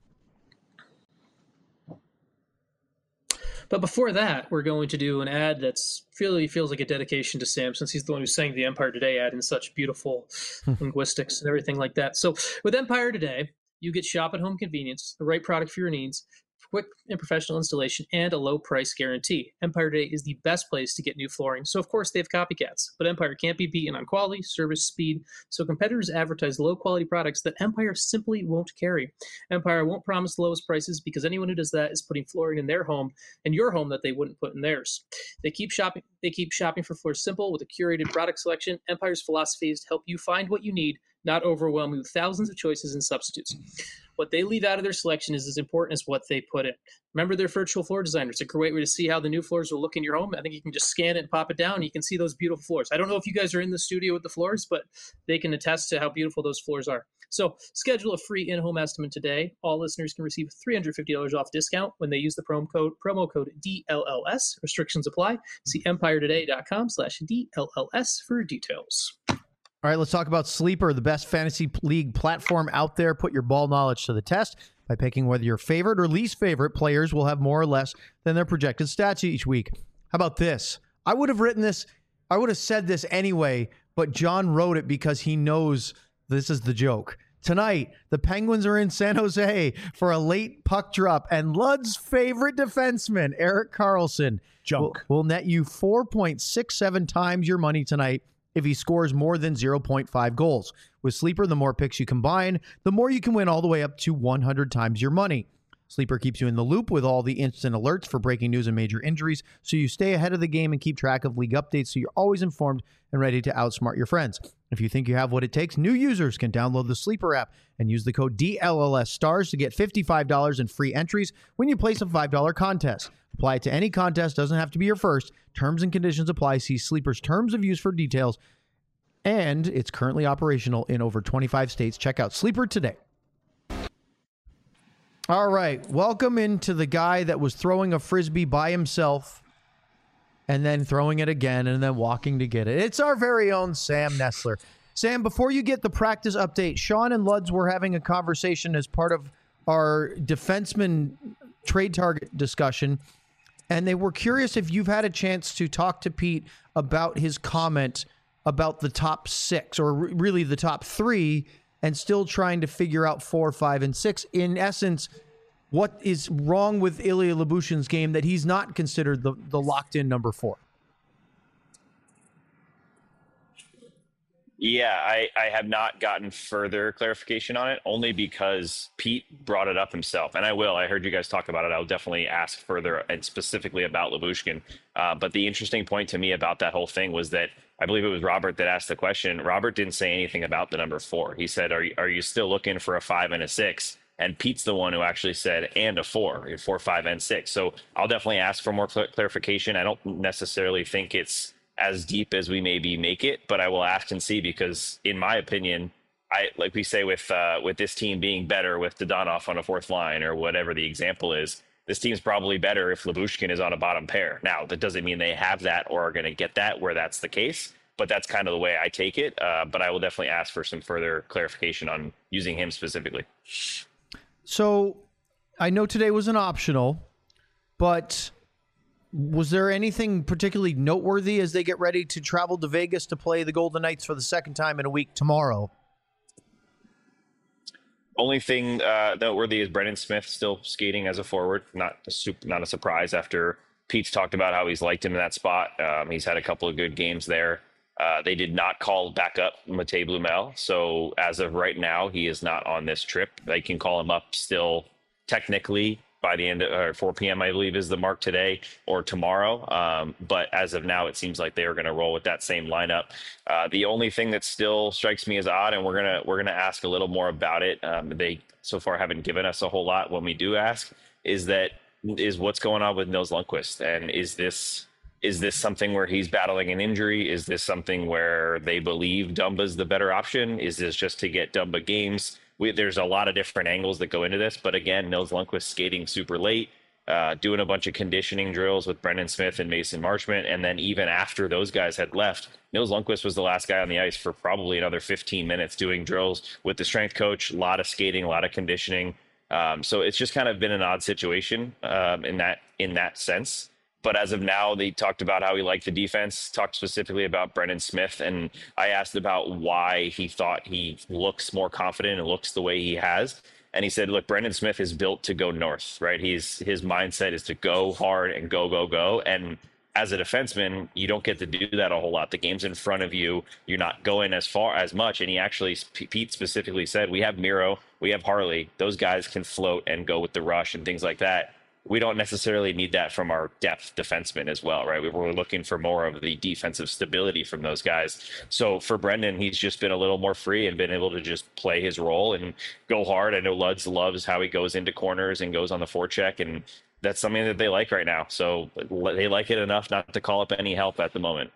But before that, we're going to do an ad that's really feels like a dedication to Sam, since he's the one who sang the Empire Today ad in such beautiful linguistics and everything like that. So with Empire Today, you get shop at home convenience, the right product for your needs, quick and professional installation, and a low price guarantee. Empire Today is the best place to get new flooring, so of course they have copycats. But Empire can't be beaten on quality, service, speed, so competitors advertise low quality products that Empire simply won't carry. Empire won't promise the lowest prices because anyone who does that is putting flooring in their home and your home that they wouldn't put in theirs. They keep shopping they keep shopping for floors simple with a curated product selection. Empire's philosophy is to help you find what you need, not overwhelm you with thousands of choices and substitutes. What they leave out of their selection is as important as what they put in. Remember their virtual floor designer. It's a great way to see how the new floors will look in your home. I think you can just scan it and pop it down, and you can see those beautiful floors. I don't know if you guys are in the studio with the floors, but they can attest to how beautiful those floors are. So schedule a free in-home estimate today. All listeners can receive three hundred fifty dollars off discount when they use the promo code, promo code D L L S. Restrictions apply. See empire today dot com slash D L L S for details. All right, let's talk about Sleeper, the best fantasy league platform out there. Put your ball knowledge to the test by picking whether your favorite or least favorite players will have more or less than their projected stats each week. How about this? I would have written this, I would have said this anyway, but John wrote it because he knows this is the joke. Tonight, the Penguins are in San Jose for a late puck drop, and Lud's favorite defenseman, Erik Karlsson, Junk. will, will net you four point six seven times your money tonight if he scores more than zero point five goals. With Sleeper, the more picks you combine, the more you can win, all the way up to one hundred times your money. Sleeper keeps you in the loop with all the instant alerts for breaking news and major injuries, so you stay ahead of the game and keep track of league updates so you're always informed and ready to outsmart your friends. If you think you have what it takes, new users can download the Sleeper app and use the code D L L S STARS to get fifty-five dollars in free entries when you place a five dollar contest. Apply it to any contest, doesn't have to be your first. Terms and conditions apply. See Sleeper's terms of use for details. And it's currently operational in over twenty-five states. Check out Sleeper today. All right, welcome into the guy that was throwing a Frisbee by himself and then throwing it again and then walking to get it. It's our very own Sam Nestler. Sam, before you get the practice update, Sean and Luds were having a conversation as part of our defenseman trade target discussion, and they were curious if you've had a chance to talk to Pete about his comment about the top six, or re- really the top three, and still trying to figure out four, five, and six. In essence, what is wrong with Ilya Lyuboshin's game that he's not considered the, the locked-in number four? Yeah, I, I have not gotten further clarification on it, only because Pete brought it up himself. And I will. I heard you guys talk about it. I'll definitely ask further and specifically about Lyubushkin. Uh, but the interesting point to me about that whole thing was that I believe it was Robert that asked the question. Robert didn't say anything about the number four. He said, are you, are you still looking for a five and a six? And Pete's the one who actually said, and a four, four, five, and six. So I'll definitely ask for more cl- clarification. I don't necessarily think it's as deep as we maybe make it, but I will ask and see, because in my opinion, I like we say with uh, with this team being better with Dodonov on a fourth line or whatever the example is, this team's probably better if Lyubushkin is on a bottom pair. Now, that doesn't mean they have that or are going to get that where that's the case, but that's kind of the way I take it. Uh, but I will definitely ask for some further clarification on using him specifically. So I know today was an optional, but was there anything particularly noteworthy as they get ready to travel to Vegas to play the Golden Knights for the second time in a week tomorrow? Only thing uh, noteworthy is Brendan Smith still skating as a forward. Not a super, not a surprise after Pete's talked about how he's liked him in that spot. Um, he's had a couple of good games there. Uh, they did not call back up Matej Blumel. So as of right now, he is not on this trip. They can call him up still technically by the end of or four p.m., I believe, is the mark today or tomorrow. Um, but as of now, it seems like they are going to roll with that same lineup. Uh, the only thing that still strikes me as odd, and we're gonna we're gonna ask a little more about it. Um, they so far haven't given us a whole lot when we do ask. Is that is what's going on with Nils Lundkvist, and is this is this something where he's battling an injury? Is this something where they believe Dumba's the better option? Is this just to get Dumba games? We, there's a lot of different angles that go into this, but again, Nils Lundkvist skating super late, uh, doing a bunch of conditioning drills with Brendan Smith and Mason Marchment, and then even after those guys had left, Nils Lundkvist was the last guy on the ice for probably another fifteen minutes doing drills with the strength coach, a lot of skating, a lot of conditioning. Um, so it's just kind of been an odd situation um, in that in that sense. But as of now, they talked about how he liked the defense, talked specifically about Brendan Smith. And I asked about why he thought he looks more confident and looks the way he has. And he said, look, Brendan Smith is built to go north, right? He's his mindset is to go hard and go, go, go. And as a defenseman, you don't get to do that a whole lot. The game's in front of you. You're not going as far as much. And he actually, Pete specifically said, we have Miro, we have Harley. Those guys can float and go with the rush and things like that. We don't necessarily need that from our depth defensemen as well, right? We were looking for more of the defensive stability from those guys. So for Brendan, he's just been a little more free and been able to just play his role and go hard. I know Luds loves how he goes into corners and goes on the forecheck, and that's something that they like right now. So they like it enough not to call up any help at the moment.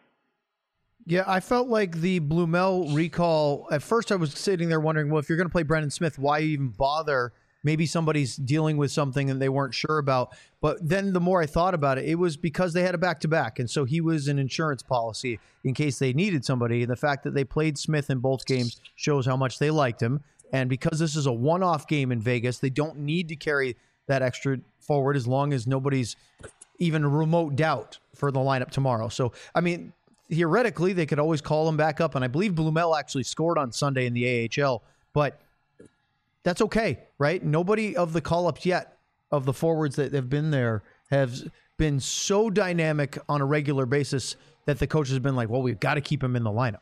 Yeah, I felt like the Blumel recall, at first I was sitting there wondering, well, if you're going to play Brendan Smith, why even bother? Maybe somebody's dealing with something and they weren't sure about. But then the more I thought about it, it was because they had a back-to-back. And so he was an insurance policy in case they needed somebody. And the fact that they played Smith in both games shows how much they liked him. And because this is a one-off game in Vegas, they don't need to carry that extra forward as long as nobody's even a remote doubt for the lineup tomorrow. So, I mean, theoretically, they could always call him back up. And I believe Blumel actually scored on Sunday in the A H L. But that's okay, right? Nobody of the call-ups yet, of the forwards that have been there, have been so dynamic on a regular basis that the coach has been like, well, we've got to keep him in the lineup.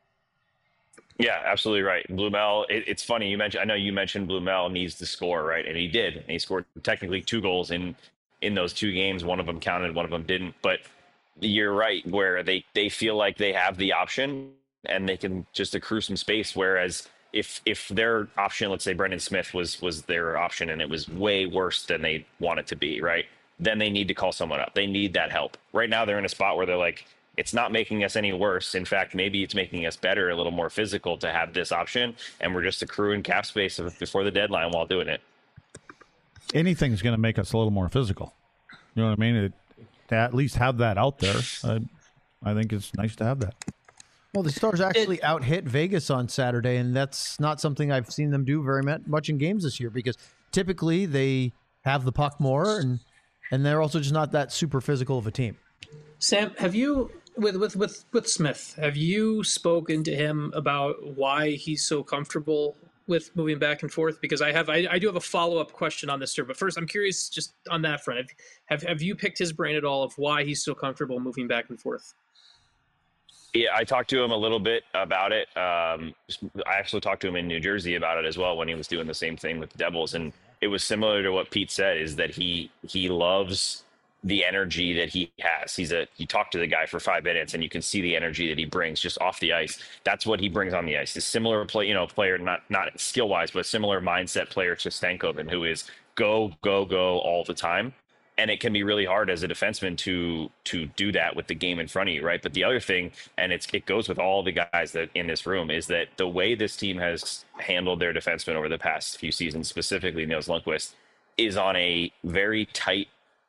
Yeah, absolutely right. Blumel, it, it's funny. You mentioned, I know you mentioned Blumel needs to score, right? And he did. And he scored technically two goals in, in those two games. One of them counted, one of them didn't. But you're right, where they, they feel like they have the option and they can just accrue some space, whereas If if their option, let's say Brendan Smith was was their option and it was way worse than they want it to be, right? Then they need to call someone up. They need that help. Right now they're in a spot where they're like, it's not making us any worse. In fact, maybe it's making us better, a little more physical to have this option. And we're just accruing cap space before the deadline while doing it. Anything's going to make us a little more physical. You know what I mean? It, to at least have that out there. I, I think it's nice to have that. Well, the Stars actually out-hit Vegas on Saturday, and that's not something I've seen them do very much in games this year, because typically they have the puck more, and and they're also just not that super physical of a team. Sam, have you, with, with, with, with Smith, have you spoken to him about why he's so comfortable with moving back and forth? Because I have, I, I do have a follow-up question on this, sir. But first, I'm curious just on that front. Have, have, have you picked his brain at all of why he's so comfortable moving back and forth? Yeah, I talked to him a little bit about it. Um, I actually talked to him in New Jersey about it as well when he was doing the same thing with the Devils. And it was similar to what Pete said, is that he he loves the energy that he has. He's a you talk to the guy for five minutes and you can see the energy that he brings just off the ice. That's what he brings on the ice. A similar play, you know, player, not not skill wise, but similar mindset player to Stankoven, who is go, go, go all the time. And it can be really hard as a defenseman to to do that with the game in front of you, right? But the other thing, and it's it goes with all the guys that in this room, is that the way this team has handled their defensemen over the past few seasons, specifically Nils Lundqvist, is on a very tight,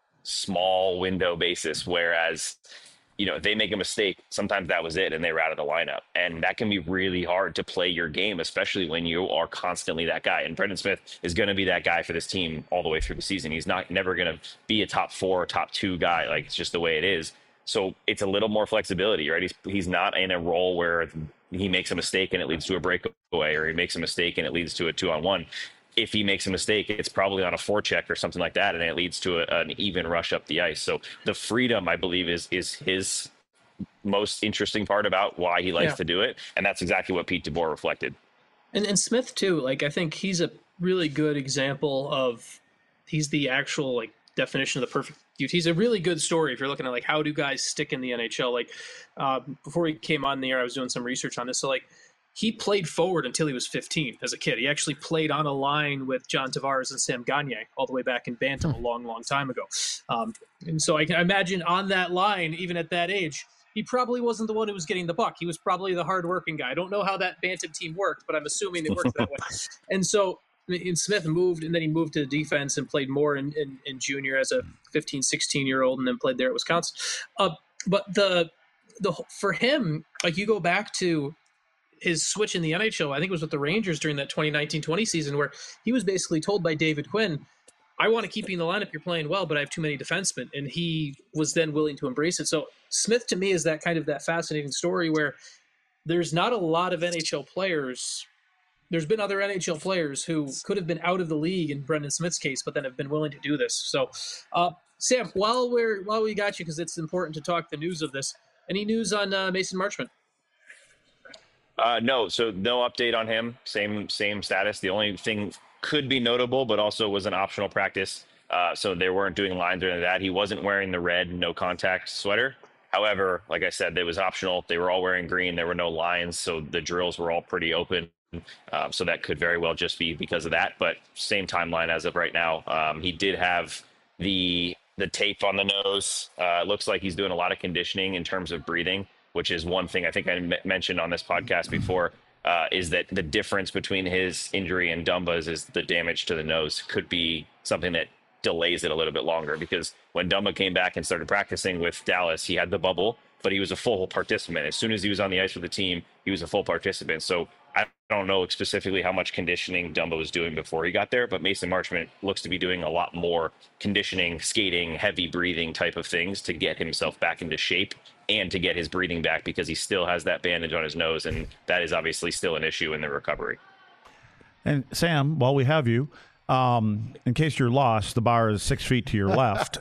small window basis. Whereas, you know, if they make a mistake, sometimes that was it and they were out of the lineup. And that can be really hard to play your game, especially when you are constantly that guy. And Brendan Smith is going to be that guy for this team all the way through the season. He's not never going to be a top four or top two guy. Like, it's just the way it is. So it's a little more flexibility, right? He's, he's not in a role where he makes a mistake and it leads to a breakaway, or he makes a mistake and it leads to a two on one. If he makes a mistake, it's probably on a forecheck or something like that, and it leads to a, an even rush up the ice. So the freedom, I believe, is is his most interesting part about why he likes Yeah. to do it, and that's exactly what Pete DeBoer reflected. And and Smith too. Like, I think he's a really good example of he's the actual like definition of the perfect youth. He's a really good story if you're looking at like how do guys stick in the N H L. Like uh, before he came on the air, I was doing some research on this. So like. He played forward until he was fifteen as a kid. He actually played on a line with John Tavares and Sam Gagner all the way back in Bantam a long, long time ago. Um, and so I can imagine on that line, even at that age, he probably wasn't the one who was getting the puck. He was probably the hardworking guy. I don't know how that Bantam team worked, but I'm assuming it worked that way. And so and Smith moved, and then he moved to defense and played more in, in, in junior as a fifteen, sixteen-year-old, and then played there at Wisconsin. Uh, but the the for him, like you go back to his switch in the N H L, I think it was with the Rangers during that twenty nineteen twenty season, where he was basically told by David Quinn, I want to keep you in the lineup, you're playing well, but I have too many defensemen. And he was then willing to embrace it. So Smith, to me, is that kind of that fascinating story where there's not a lot of N H L players. There's been other N H L players who could have been out of the league in Brendan Smith's case, but then have been willing to do this. So, uh, Sam, while we're while we got you, because it's important to talk the news of this, any news on uh, Mason Marchment? Uh, no, so no update on him. Same same status. The only thing could be notable, but also was an optional practice. Uh, so they weren't doing lines or anything like that. He wasn't wearing the red no contact sweater. However, like I said, it was optional. They were all wearing green. There were no lines, so the drills were all pretty open. Um, so that could very well just be because of that. But same timeline as of right now. Um, he did have the the tape on the nose. Uh, it looks like he's doing a lot of conditioning in terms of breathing, which is one thing I think I m- mentioned on this podcast before, uh, is that the difference between his injury and Dumba's is the damage to the nose could be something that delays it a little bit longer, because when Dumba came back and started practicing with Dallas, he had the bubble, but he was a full participant. As soon as he was on the ice with the team, he was a full participant. So I don't know specifically how much conditioning Dumba was doing before he got there, but Mason Marchment looks to be doing a lot more conditioning, skating, heavy breathing type of things to get himself back into shape and to get his breathing back, because he still has that bandage on his nose, and that is obviously still an issue in the recovery. And Sam, while we have you, um, in case you're lost, the bar is six feet to your left.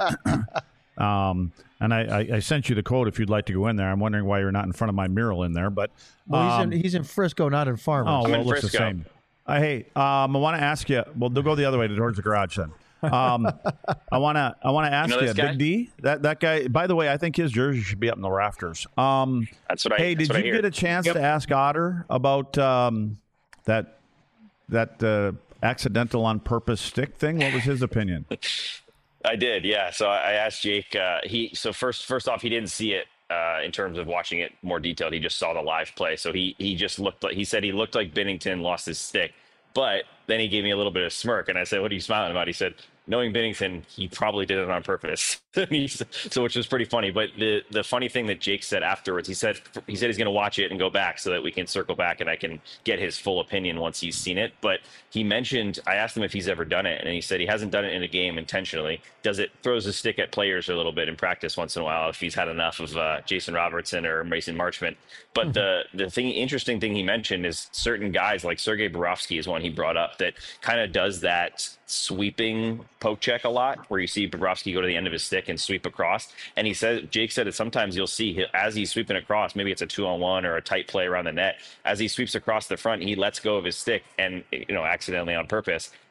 um, and I, I, I sent you the code if you'd like to go in there. I'm wondering why you're not in front of my mural in there, but Well, he's, um, in, he's in Frisco, not in Farmers. oh, I'm well, in it looks the Frisco. same. Uh, hey, um, I want to ask you. Well, they'll go the other way towards the garage then. Um, I want to. I want to ask You know you, this guy? Big D. That that guy. By the way, I think his jersey should be up in the rafters. Um, That's what I. hey, that's did what I you hear. get a chance Yep. to ask Otter about um, that that uh, accidental on purpose stick thing? What was his opinion? I did, yeah. So I I asked Jake. Uh, he so first first off, he didn't see it uh, in terms of watching it more detailed. He just saw the live play. So he he just looked like he said he looked like Binnington lost his stick. But then he gave me a little bit of smirk, and I said, "What are you smiling about?" He said, "Knowing Binnington, he probably did it on purpose." So, which was pretty funny. But the the funny thing that Jake said afterwards, he said he said he's going to watch it and go back so that we can circle back and I can get his full opinion once he's seen it. But he mentioned, I asked him if he's ever done it, and he said he hasn't done it in a game intentionally. Does it throws his stick at players a little bit in practice once in a while if he's had enough of uh, Jason Robertson or Mason Marchment. But mm-hmm. the the thing interesting thing he mentioned is certain guys like Sergei Bobrovsky is one he brought up that kind of does that sweeping poke check a lot, where you see Bobrovsky go to the end of his stick and sweep across. And he said, Jake said that sometimes you'll see as he's sweeping across, maybe it's a two on one or a tight play around the net. As he sweeps across the front, he lets go of his stick and, you know, accidentally on purpose.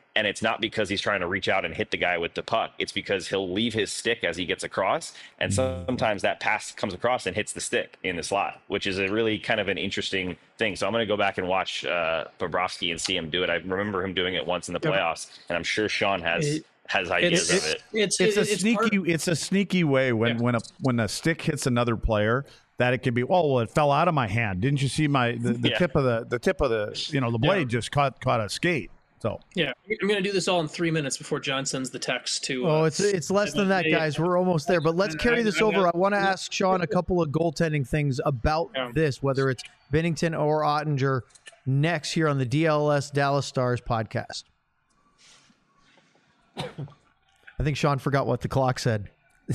And it's not because he's trying to reach out and hit the guy with the puck. It's because he'll leave his stick as he gets across. And sometimes that pass comes across and hits the stick in the slot, which is a really kind of an interesting thing. So I'm going to go back and watch uh, Bobrovsky and see him do it. I remember him doing it once in the playoffs, and I'm sure Sean has it, has ideas it's, of it. It's, It's, it's a sneaky. part- It's a sneaky way when Yeah. when a when a stick hits another player that it can be. Oh, well, it fell out of my hand. Didn't you see my the, the Yeah. tip of the the tip of the you know the blade Yeah. just caught caught a skate. So Yeah, I'm going to do this all in three minutes before John sends the text to. Uh, Oh, it's it's less than that, guys. We're almost there. But let's carry this over. I want to ask Sean a couple of goaltending things about Yeah. this, whether it's Binnington or Ottinger, next here on the D L S Dallas Stars podcast. I think Sean forgot what the clock said.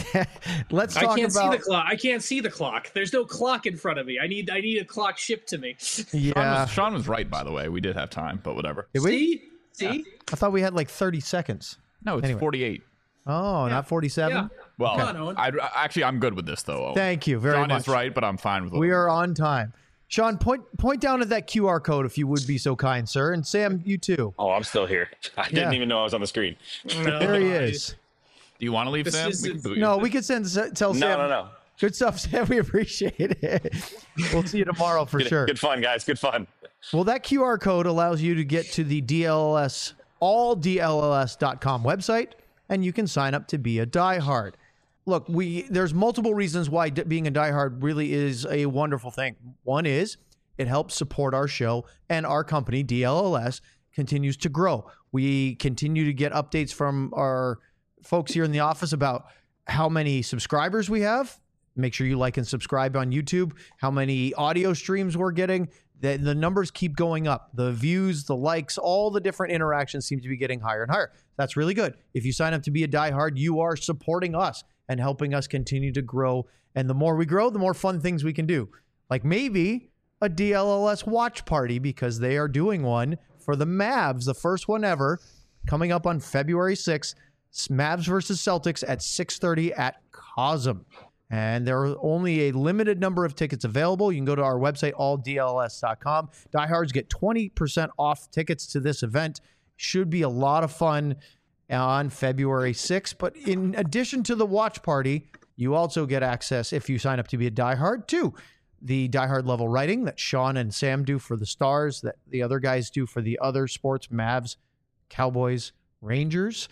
Let's talk I can't about see the clock. I can't see the clock. There's no clock in front of me. I need I need a clock shipped to me. Sean, yeah. was, Sean was right, by the way. We did have time, but whatever. Did we? See, see. I thought we had like thirty seconds. No, it's Anyway. forty-eight. Oh, not forty-seven. Yeah. Well, Come on, Owen. I'd, actually, I'm good with this, though. Owen. Thank you very Sean much. is right, but I'm fine with it. We are on time. Sean, point point down at that Q R code if you would be so kind, sir. And Sam, you too. Oh, I'm still here. I didn't Yeah. even know I was on the screen. No, There he I- is. Do you want to leave, This Sam? is- We can boot you. No, we could send tell Sam. No, no, no. Good stuff, Sam. We appreciate it. We'll see you tomorrow for Good, sure. good fun, guys. Good fun. Well, that Q R code allows you to get to the D L S, all D L L S dot com website, and you can sign up to be a diehard. Look, we there's multiple reasons why d- being a diehard really is a wonderful thing. One is it helps support our show, and our company, D L L S, continues to grow. We continue to get updates from our folks here in the office about how many subscribers we have. Make sure you like and subscribe on YouTube. How many audio streams we're getting. The, the numbers keep going up. The views, the likes, all the different interactions seem to be getting higher and higher. That's really good. If you sign up to be a diehard, you are supporting us and helping us continue to grow. And the more we grow, the more fun things we can do. Like maybe a D L L S watch party, because they are doing one for the Mavs, the first one ever, coming up on February sixth. Mavs versus Celtics at six thirty at Cosm. And there are only a limited number of tickets available. You can go to our website, all D L S dot com. Diehards get twenty percent off tickets to this event. Should be a lot of fun on February sixth. But in addition to the watch party, you also get access, if you sign up to be a diehard, to the diehard level writing that Sean and Sam do for the Stars, that the other guys do for the other sports, Mavs, Cowboys, Rangers.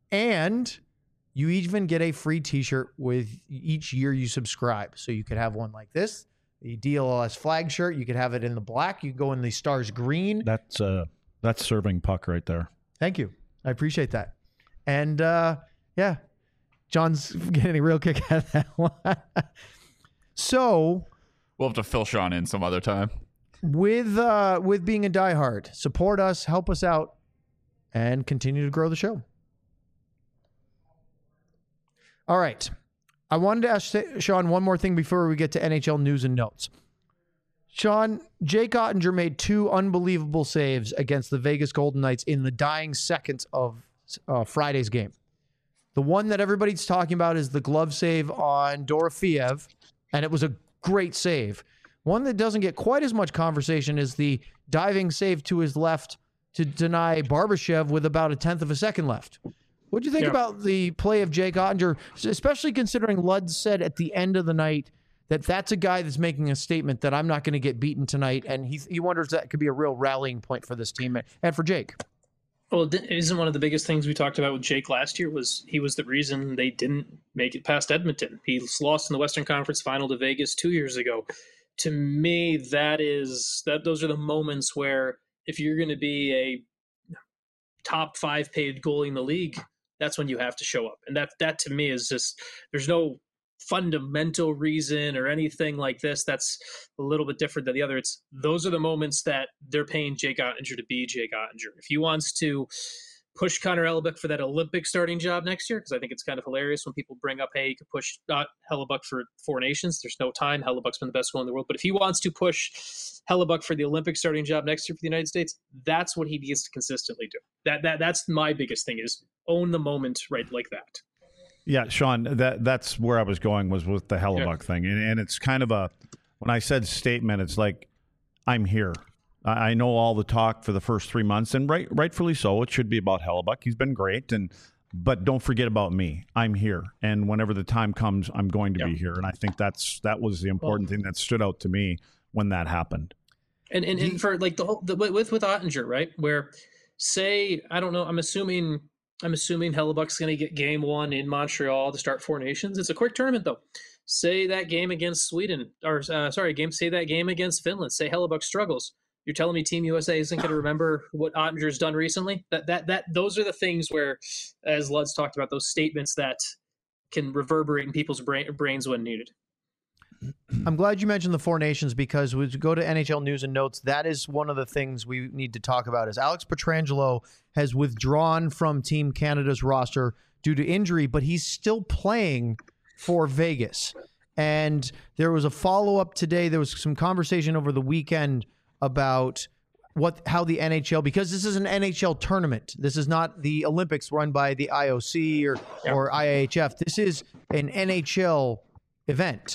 And you even get a free t-shirt with each year you subscribe. So you could have one like this, the D L L S flag shirt. You could have it in the black. You could go in the Stars green. that's uh that's serving puck right there. Thank you. I appreciate that. And uh, yeah, John's getting a real kick out of that one. So We'll have to fill Sean in some other time. with uh, with being a diehard, support us, help us out, and continue to grow the show. All right. I wanted to ask Sean one more thing before we get to N H L news and notes. Sean, Jake Ottinger made two unbelievable saves against the Vegas Golden Knights in the dying seconds of uh, Friday's game. The one that everybody's talking about is the glove save on Dorofeev, and it was a great save. One that doesn't get quite as much conversation is the diving save to his left to deny Barbashev with about a tenth of a second left. What do you think Yeah. about the play of Jake Ottinger, especially considering Ludd said at the end of the night that that's a guy that's making a statement that I'm not going to get beaten tonight, and he he wonders that could be a real rallying point for this team and for Jake. Well, it isn't one of the biggest things we talked about with Jake last year was he was the reason they didn't make it past Edmonton. He lost in the Western Conference Final to Vegas two years ago. To me, that is that those are the moments where if you're going to be a top five paid goalie in the league, that's when you have to show up. And that that to me is just there's no fundamental reason or anything like this that's a little bit different than the other. It's those are the moments that they're paying Jake Ottinger to be Jake Ottinger. If he wants to push Connor Hellebuck for that Olympic starting job next year, because I think it's kind of hilarious when people bring up, hey, you could push uh, Hellebuck for Four Nations. There's no time. Hellebuck's been the best goalie in the world. But if he wants to push Hellebuck for the Olympic starting job next year for the United States, that's what he needs to consistently do. That that That's my biggest thing is own the moment right like that. Yeah, Sean, that that's where I was going was with the Hellebuck Yeah. thing. And, and it's kind of a, when I said statement, it's like, I'm here. I, I know all the talk for the first three months, and right, rightfully so. It should be about Hellebuyck. He's been great, and but don't forget about me. I'm here, and whenever the time comes, I'm going to Yeah. be here. And I think that's that was the important Well, thing that stood out to me when that happened. And and, and for like the whole the, with with Ottinger, right? Where say I don't know, I'm assuming I'm assuming Hellebuck's going to get game one in Montreal to start Four Nations. It's a quick tournament though. Say that game against Sweden, or uh, sorry, game. Say that game against Finland. Say Hellebuck struggles. You're telling me Team U S A isn't going to remember what Ottinger's done recently? That that that those are the things where, as Lud's talked about, those statements that can reverberate in people's brain, brains when needed. I'm glad you mentioned the Four Nations because we go to N H L News and Notes. That is one of the things we need to talk about. Is Alex Pietrangelo has withdrawn from Team Canada's roster due to injury, but he's still playing for Vegas. And there was a follow up today. There was some conversation over the weekend about what how the N H L, because this is an N H L tournament. This is not the Olympics run by the I O C or Yeah. or I H F. This is an N H L event.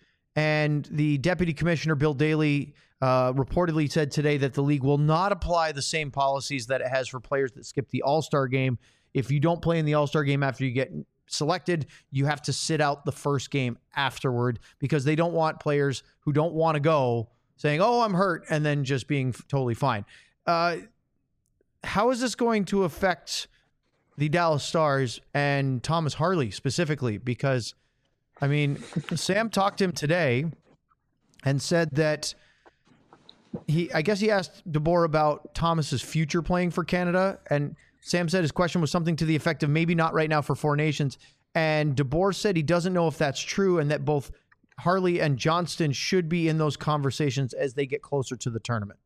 And the deputy commissioner, Bill Daly, uh, reportedly said today that the league will not apply the same policies that it has for players that skip the All-Star game. If you don't play in the All-Star game after you get selected, you have to sit out the first game afterward because they don't want players who don't want to go saying, oh, I'm hurt, and then just being f- totally fine. Uh, how is this going to affect the Dallas Stars and Thomas Harley specifically? Because I mean, Sam talked to him today and said that he, I guess he asked DeBoer about Thomas's future playing for Canada. And Sam said his question was something to the effect of maybe not right now for Four Nations. And DeBoer said he doesn't know if that's true and that both Harley and Johnston should be in those conversations as they get closer to the tournament.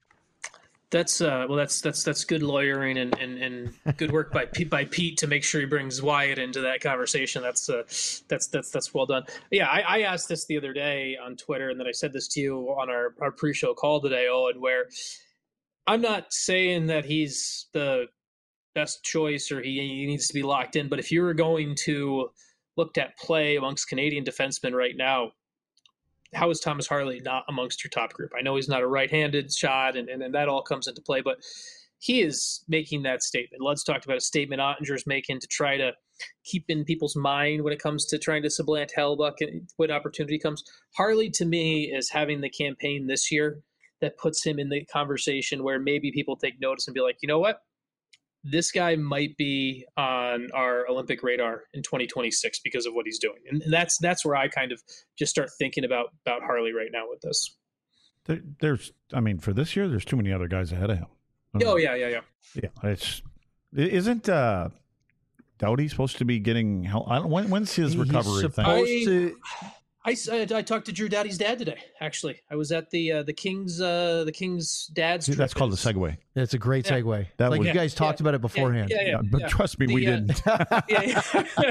That's uh, well, that's that's that's good lawyering and, and, and good work by Pete, by Pete to make sure he brings Wyatt into that conversation. That's uh, that's that's that's well done. Yeah, I, I asked this the other day on Twitter, and then I said this to you on our, our pre-show call today, Owen, where I'm not saying that he's the best choice or he, he needs to be locked in, but if you were going to look at play amongst Canadian defensemen right now, how is Thomas Harley not amongst your top group? I know he's not a right-handed shot, and, and, and that all comes into play, but he is making that statement. Lud's talked about a statement Ottinger's making to try to keep in people's mind when it comes to trying to supplant Hellebuyck when opportunity comes. Harley, to me, is having the campaign this year that puts him in the conversation where maybe people take notice and be like, you know what? This guy might be on our Olympic radar in twenty twenty-six because of what he's doing. And that's that's where I kind of just start thinking about about Harley right now with this. There, there's, I mean, for this year, there's too many other guys ahead of him. I mean, Oh, yeah, yeah, yeah. yeah. It's isn't uh, Doughty supposed to be getting help? I don't. When, when's his He's recovery thing? supposed I- to. I, I, I talked to Drew Doughty's dad today, actually. I was at the uh, the King's uh, the King's dad's See, trip. that's called a It's- segue. That's a great Yeah. segue. That like was- you guys talked Yeah, about it beforehand. Yeah, yeah, yeah. but yeah. trust me, The, we uh, didn't. yeah,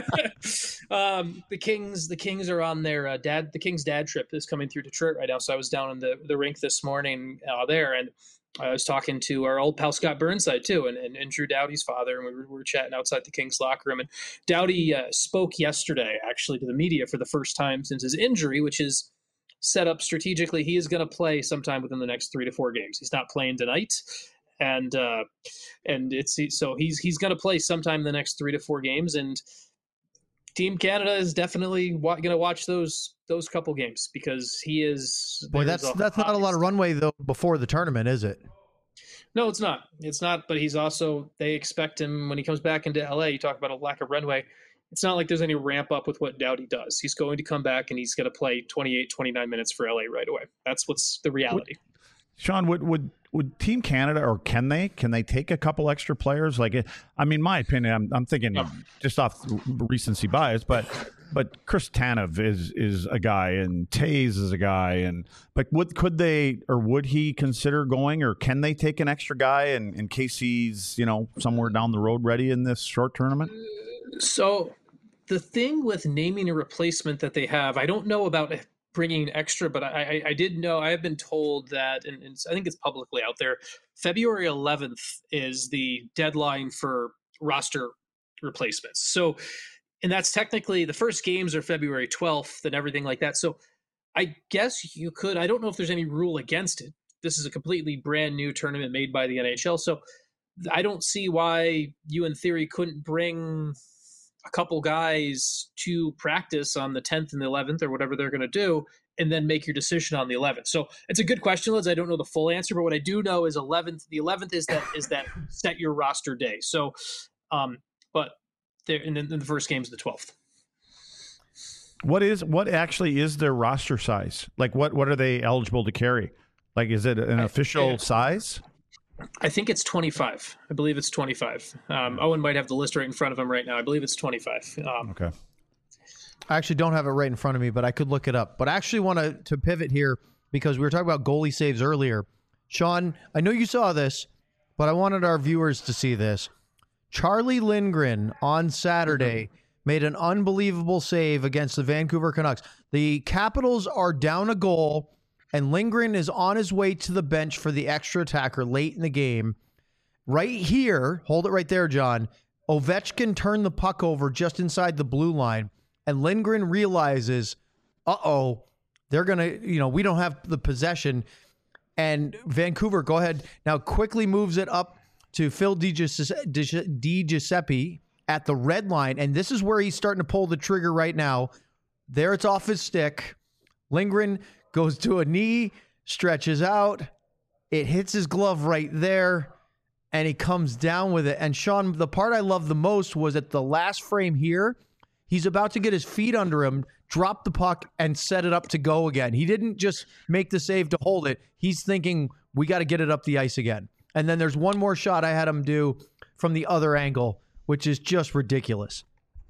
yeah. um, the Kings, the Kings are on their uh, dad. The Kings' dad trip is coming through Detroit right now. So I was down in the, the rink this morning uh, there, and I was talking to our old pal Scott Burnside too, and, and, and Drew Doughty's father, and we were, we were chatting outside the Kings locker room. And Doughty uh, spoke yesterday, actually, to the media for the first time since his injury, which is set up strategically. He is going to play sometime within the next three to four games. He's not playing tonight. And uh, and it's so he's he's going to play sometime in the next three to four games, and Team Canada is definitely wa- going to watch those those couple games because he is. Boy, there's that's that's not a lot of runway though before the tournament, is it? No, it's not. It's not. But he's also. They expect him when he comes back into L A. You talk about a lack of runway. It's not like there's any ramp up with what Doughty does. He's going to come back and he's going to play twenty-eight, twenty-nine minutes for L A right away. That's what's the reality. Sean, would would would Team Canada, or can they can they take a couple extra players? Like, I mean, my opinion, I'm, I'm thinking No. just off recency bias, but but Chris Tanev is is a guy, and Taze is a guy, and but would could they or would he consider going, or can they take an extra guy in, in case he's, you know, somewhere down the road ready in this short tournament? So the thing with naming a replacement that they have, I don't know about bringing extra, but I, I, I did know, I have been told that, and, and I think it's publicly out there, February eleventh is the deadline for roster replacements. So, and that's technically, the first games are February twelfth and everything like that. So I guess you could, I don't know if there's any rule against it. this is a completely brand new tournament made by the N H L. So I don't see why you, in theory, couldn't bring a couple guys to practice on the tenth and the eleventh or whatever they're going to do, and then make your decision on the eleventh. So it's a good question, Liz. I don't know the full answer, but what I do know is eleventh. The eleventh is that is that set your roster day. So, um, but there, and then the first game is the twelfth. What is what actually is their roster size? Like, what what are they eligible to carry? Like, is it an official I, size? I think it's twenty-five. I believe it's twenty-five. Um, Owen might have the list right in front of him right now. I believe it's twenty-five. Um, okay. I actually don't have it right in front of me, but I could look it up. But I actually want to to pivot here because we were talking about goalie saves earlier. Sean, I know you saw this, but I wanted our viewers to see this. Charlie Lindgren on Saturday mm-hmm. made an unbelievable save against the Vancouver Canucks. The Capitals are down a goal, and Lindgren is on his way to the bench for the extra attacker late in the game. Right here, hold it right there, John. Ovechkin turned the puck over just inside the blue line, and Lindgren realizes, uh-oh, they're going to, you know, we don't have the possession. And Vancouver, go ahead, now quickly moves it up to Phil DiGiuseppe at the red line, and this is where he's starting to pull the trigger right now. There it's off his stick. Lindgren goes to a knee, stretches out. It hits his glove right there, and he comes down with it. And Sean, the part I love the most was at the last frame here, he's about to get his feet under him, drop the puck, and set it up to go again. He didn't just make the save to hold it. He's thinking, we got to get it up the ice again. And then there's one more shot I had him do from the other angle, which is just ridiculous.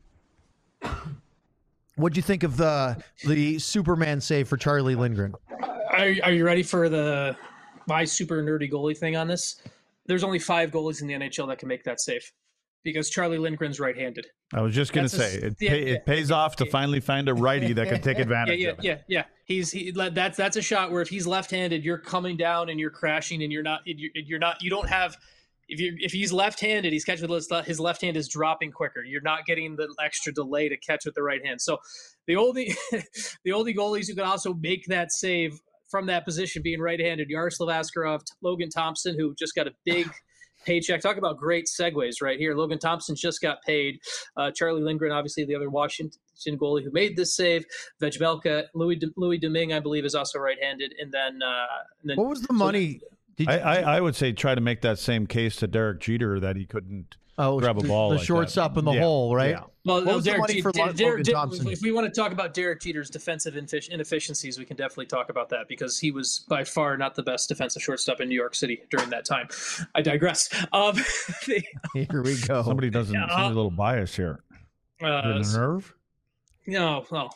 What'd you think of the the Superman save for Charlie Lindgren? Are, are you ready for the my super nerdy goalie thing on this? There's only five goalies in the N H L that can make that save because Charlie Lindgren's right-handed. I was just going to say, a, it, yeah, pay, it pays yeah, off to yeah. finally find a righty that can take advantage yeah, yeah, of it. Yeah, yeah, He's he, that's that's a shot where if he's left-handed, you're coming down and you're crashing, and you're not you're, you're not you don't have. If you if he's left-handed, he's catching with his, his left hand is dropping quicker. You're not getting the extra delay to catch with the right hand. So the only the only goalies who can also make that save from that position being right-handed, Yaroslav Askarov, Logan Thompson, who just got a big paycheck. Talk about great segues right here. Logan Thompson just got paid. Uh, Charlie Lindgren, obviously the other Washington goalie who made this save. Vejmelka, Louis De, Louis Domingue, I believe, is also right-handed. And then, uh, and then what was the money? So, Did I, I, I would say try to make that same case to Derek Jeter that he couldn't oh, grab a ball. The like shortstop that. in the yeah. hole, right? Yeah. Well, what was Derek, the money for Derek, Logan Derek, Thompson? If we want to talk about Derek Jeter's defensive inefficiencies, we can definitely talk about that because he was by far not the best defensive shortstop in New York City during that time. I digress. Um, the, here we go. Somebody doesn't uh, seem a little biased here. Uh, nerve? No, well,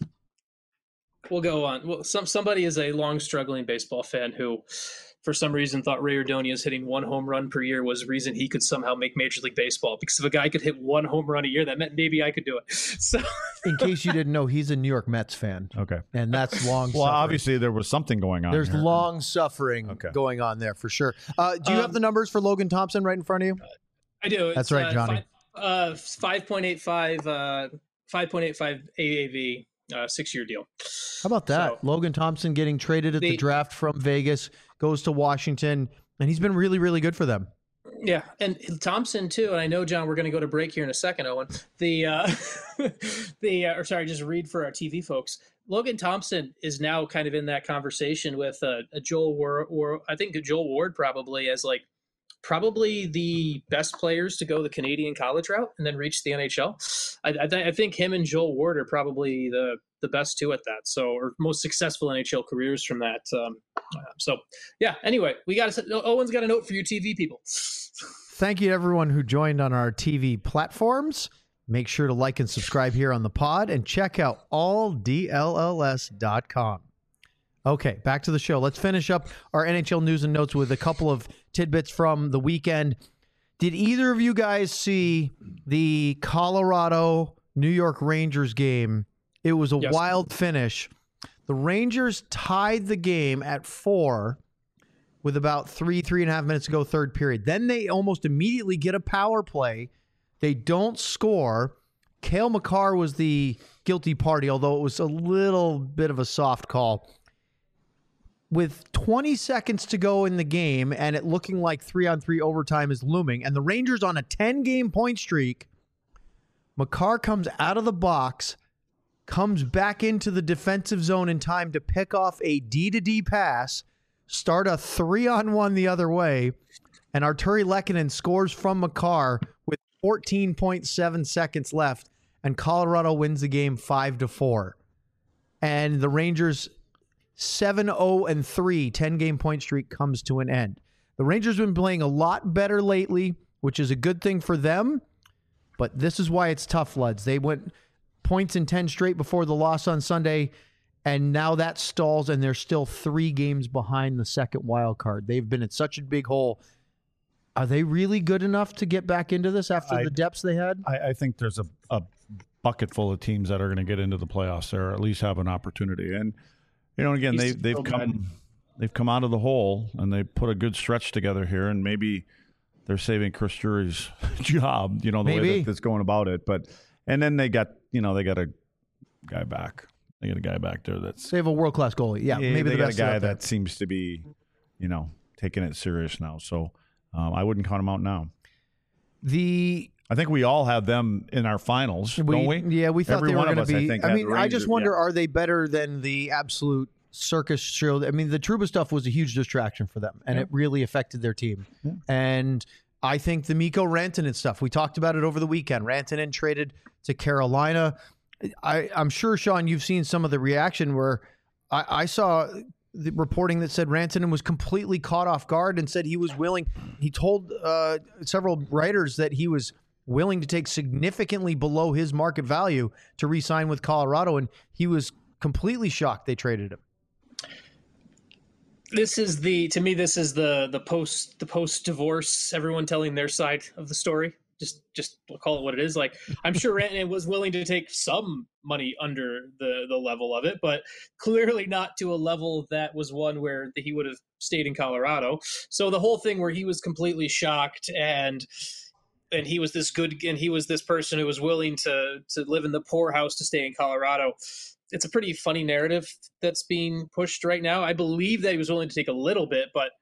we'll go on. Well, some somebody is a long struggling baseball fan who, for some reason, thought Ray Ordonez hitting one home run per year was the reason he could somehow make Major League Baseball. Because if a guy could hit one home run a year, that meant maybe I could do it. So, in case you didn't know, he's a New York Mets fan. Okay, and that's long. Well, suffering. Obviously there was something going on. There's here. long suffering okay. going on there for sure. Uh, do you um, have the numbers for Logan Thompson right in front of you? I do. That's it's, right, uh, Johnny. Five, uh, five point eight five, uh, five point eight five A A V. Uh, six-year deal. How about that? So, Logan Thompson getting traded at the, the draft from Vegas, goes to Washington, and he's been really, really good for them. Yeah, and Thompson too. And I know, John, we're going to go to break here in a second, Owen. The uh, the uh, or sorry, just read for our T V folks. Logan Thompson is now kind of in that conversation with uh, a Joel Ward, or I think Joel Ward probably as like probably the best players to go the Canadian college route and then reach the N H L. I, I, th- I think him and Joel Ward are probably the, the best two at that. So, or most successful N H L careers from that. Um, uh, so yeah, anyway, we got to, Owen's got a note for you T V people. Thank you to everyone who joined on our T V platforms. Make sure to like and subscribe here on the pod and check out all D L L S dot com. Okay, back to the show. Let's finish up our N H L news and notes with a couple of tidbits from the weekend. Did either of you guys see the Colorado New York Rangers game? It was a yes. wild finish. The Rangers tied the game at four with about three, three and a half minutes to go, third period. Then they almost immediately get a power play. They don't score. Cale Makar was the guilty party, although it was a little bit of a soft call. with twenty seconds to go in the game and it looking like three on three overtime is looming, and the Rangers on a ten game point streak, Makar comes out of the box, comes back into the defensive zone in time to pick off a D to D pass, start a three on one the other way, and Arturi Lehkonen scores from Makar with fourteen point seven seconds left, and Colorado wins the game five to four. And the Rangers seven oh and three ten game point streak comes to an end. The Rangers have been playing a lot better lately, which is a good thing for them, but this is why it's tough, Luds. They went points in ten straight before the loss on Sunday, and now that stalls, and they're still three games behind the second wild card. They've been in such a big hole. Are they really good enough to get back into this after I, the depths they had? I, I think there's a, a bucket full of teams that are going to get into the playoffs there, or at least have an opportunity. And you know, again, they they've come they've come out of the hole and they put a good stretch together here, and maybe they're saving Chris Drury's job. You know, the maybe. way that that's going about it. But and then they got you know they got a guy back. They got a guy back there that's They have a world class goalie. Yeah, yeah, maybe they the got best a guy out there. that seems to be, you know, taking it serious now. So um, I wouldn't count him out now. The I think we all have them in our finals, we, don't we? Yeah, we thought Every they were one of going to us, I be. think, I, had mean, the I just Rangers, wonder: yeah. are they better than the absolute circus show? I mean, the Trouba stuff was a huge distraction for them, and Yeah. it really affected their team. Yeah. And I think the Mikko Rantanen stuff. We talked about it over the weekend. Rantanen traded to Carolina. I, I'm sure, Sean, you've seen some of the reaction where I, I saw the reporting that said Rantanen was completely caught off guard and said he was willing. He told uh, several writers that he was willing to take significantly below his market value to re-sign with Colorado, and he was completely shocked they traded him. This is the to me this is the the post the post divorce, everyone telling their side of the story. Just just call it what it is. Like, I'm sure Rantanen was willing to take some money under the the level of it, but clearly not to a level that was one where he would have stayed in Colorado. So the whole thing where he was completely shocked and and he was this good and he was this person who was willing to to live in the poorhouse to stay in Colorado. It's a pretty funny narrative that's being pushed right now. I believe that he was willing to take a little bit, but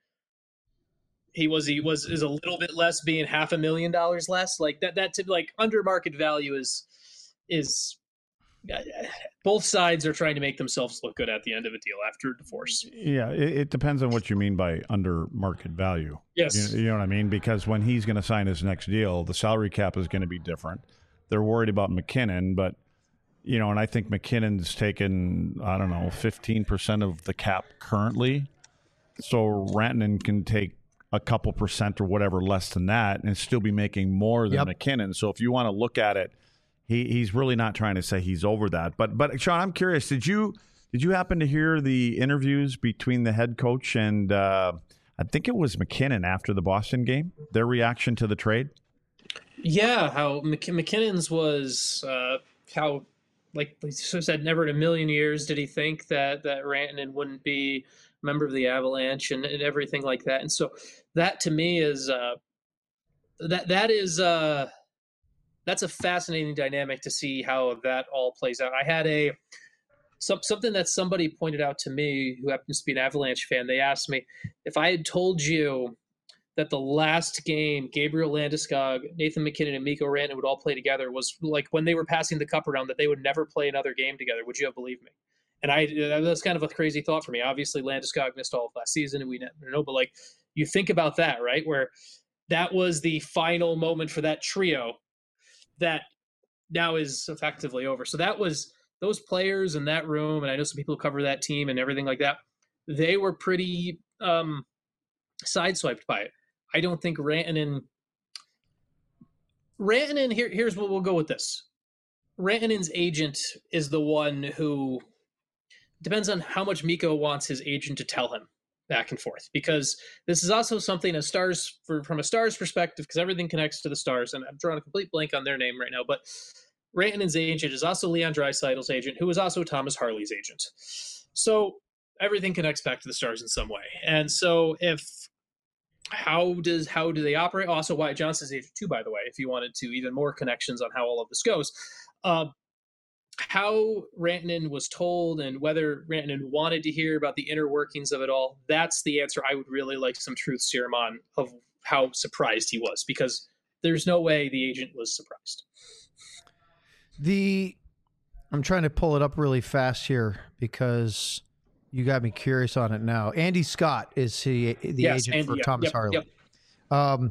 he was he was is a little bit less, being half a million dollars less. Like that that to, like under market value is is uh, both sides are trying to make themselves look good at the end of a deal after divorce. Yeah, it, it depends on what you mean by under market value. Yes. You, you know what I mean? Because when he's going to sign his next deal, the salary cap is going to be different. They're worried about McKinnon, but you know, and I think McKinnon's taken, I don't know, fifteen percent of the cap currently. So Rantanen can take a couple percent or whatever less than that and still be making more than Yep. McKinnon. So if you want to look at it, he he's really not trying to say he's over that. But but Sean, I'm curious, did you did you happen to hear the interviews between the head coach and uh, I think it was McKinnon after the Boston game, their reaction to the trade? Yeah, how Mc- McKinnon's was uh, how like he said, never in a million years did he think that that Rantanen wouldn't be a member of the Avalanche and, and everything like that. And so that to me is uh, that that is uh, that's a fascinating dynamic to see how that all plays out. I had a some, something that somebody pointed out to me who happens to be an Avalanche fan. They asked me if I had told you that the last game Gabriel Landeskog, Nathan McKinnon, and Mikko Rantanen would all play together was like when they were passing the cup around, that they would never play another game together. Would you have believed me? And I that was kind of a crazy thought for me. Obviously, Landeskog missed all of last season, and we never know. But like, you think about that, right? Where that was the final moment for that trio that now is effectively over. So that was those players in that room, and I know some people who cover that team and everything like that. They were pretty um, sideswiped by it. I don't think Rantanen. Rantanen, here, here's what we'll go with this. Rantanen's agent is the one who depends on how much Mikko wants his agent to tell him back and forth. Because this is also something a Stars for, from a Stars perspective, because everything connects to the Stars, and I'm drawing a complete blank on their name right now. But Rantanen's agent is also Leon Draisaitl's agent, who is also Thomas Harley's agent. So everything connects back to the Stars in some way. And so if How does how do they operate? Also, Wyatt Johnston's agent too, by the way, if you wanted to even more connections on how all of this goes. Uh, how Rantanen was told and whether Rantanen wanted to hear about the inner workings of it all, that's the answer I would really like some truth serum on, of how surprised he was, because there's no way the agent was surprised. The I'm trying to pull it up really fast here because you got me curious on it now. Andy Scott is he, the yes, agent Andy, for yep, Thomas yep, Harley. Yep. Um,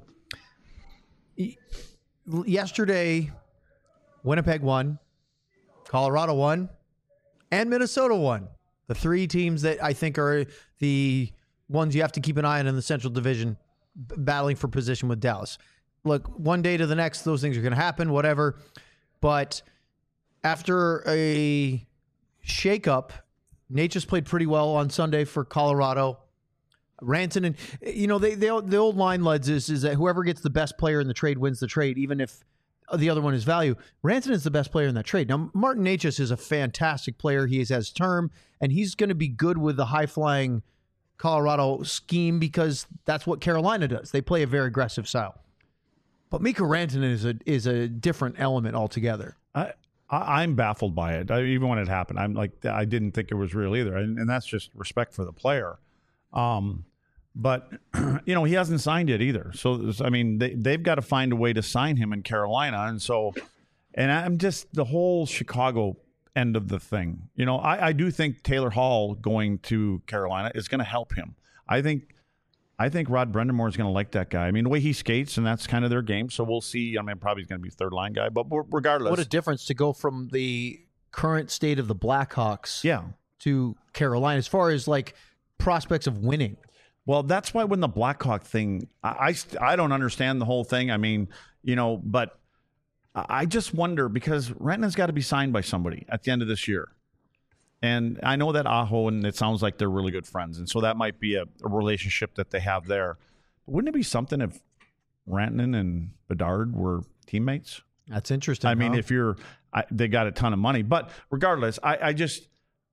yesterday, Winnipeg won, Colorado won, and Minnesota won. The three teams that I think are the ones you have to keep an eye on in the Central Division, b- battling for position with Dallas. Look, one day to the next, those things are going to happen, whatever. But after a shakeup, Nature's played pretty well on Sunday for Colorado. Rantanen, you know, they, they the old line, Leds, is, is that whoever gets the best player in the trade wins the trade, even if the other one is value. Rantanen is the best player in that trade. Now, Martin Necas is a fantastic player. He has term, and he's going to be good with the high-flying Colorado scheme because that's what Carolina does. They play a very aggressive style. But Mikko Rantanen is a is a different element altogether. I, I I'm baffled by it. I, even when it happened, I'm like, I didn't think it was real either, and, and that's just respect for the player. Um, but you know, he hasn't signed it either. So I mean, they they've got to find a way to sign him in Carolina, and so, and I'm just the whole Chicago end of the thing. You know, I I do think Taylor Hall going to Carolina is going to help him. I think. I think Rod Brind'Amour is going to like that guy. I mean, the way he skates, and that's kind of their game. So we'll see. I mean, probably he's going to be third line guy, but regardless. What a difference to go from the current state of the Blackhawks yeah. to Carolina as far as like prospects of winning. Well, that's why when the Blackhawk thing, I, I, I don't understand the whole thing. I mean, you know, but I just wonder because Rantanen's got to be signed by somebody at the end of this year. And I know that Aho, and it sounds like they're really good friends. And so that might be a, a relationship that they have there. But wouldn't it be something if Rantanen and Bedard were teammates? That's interesting. I mean, huh? if you're, I, they got a ton of money. But regardless, I, I just,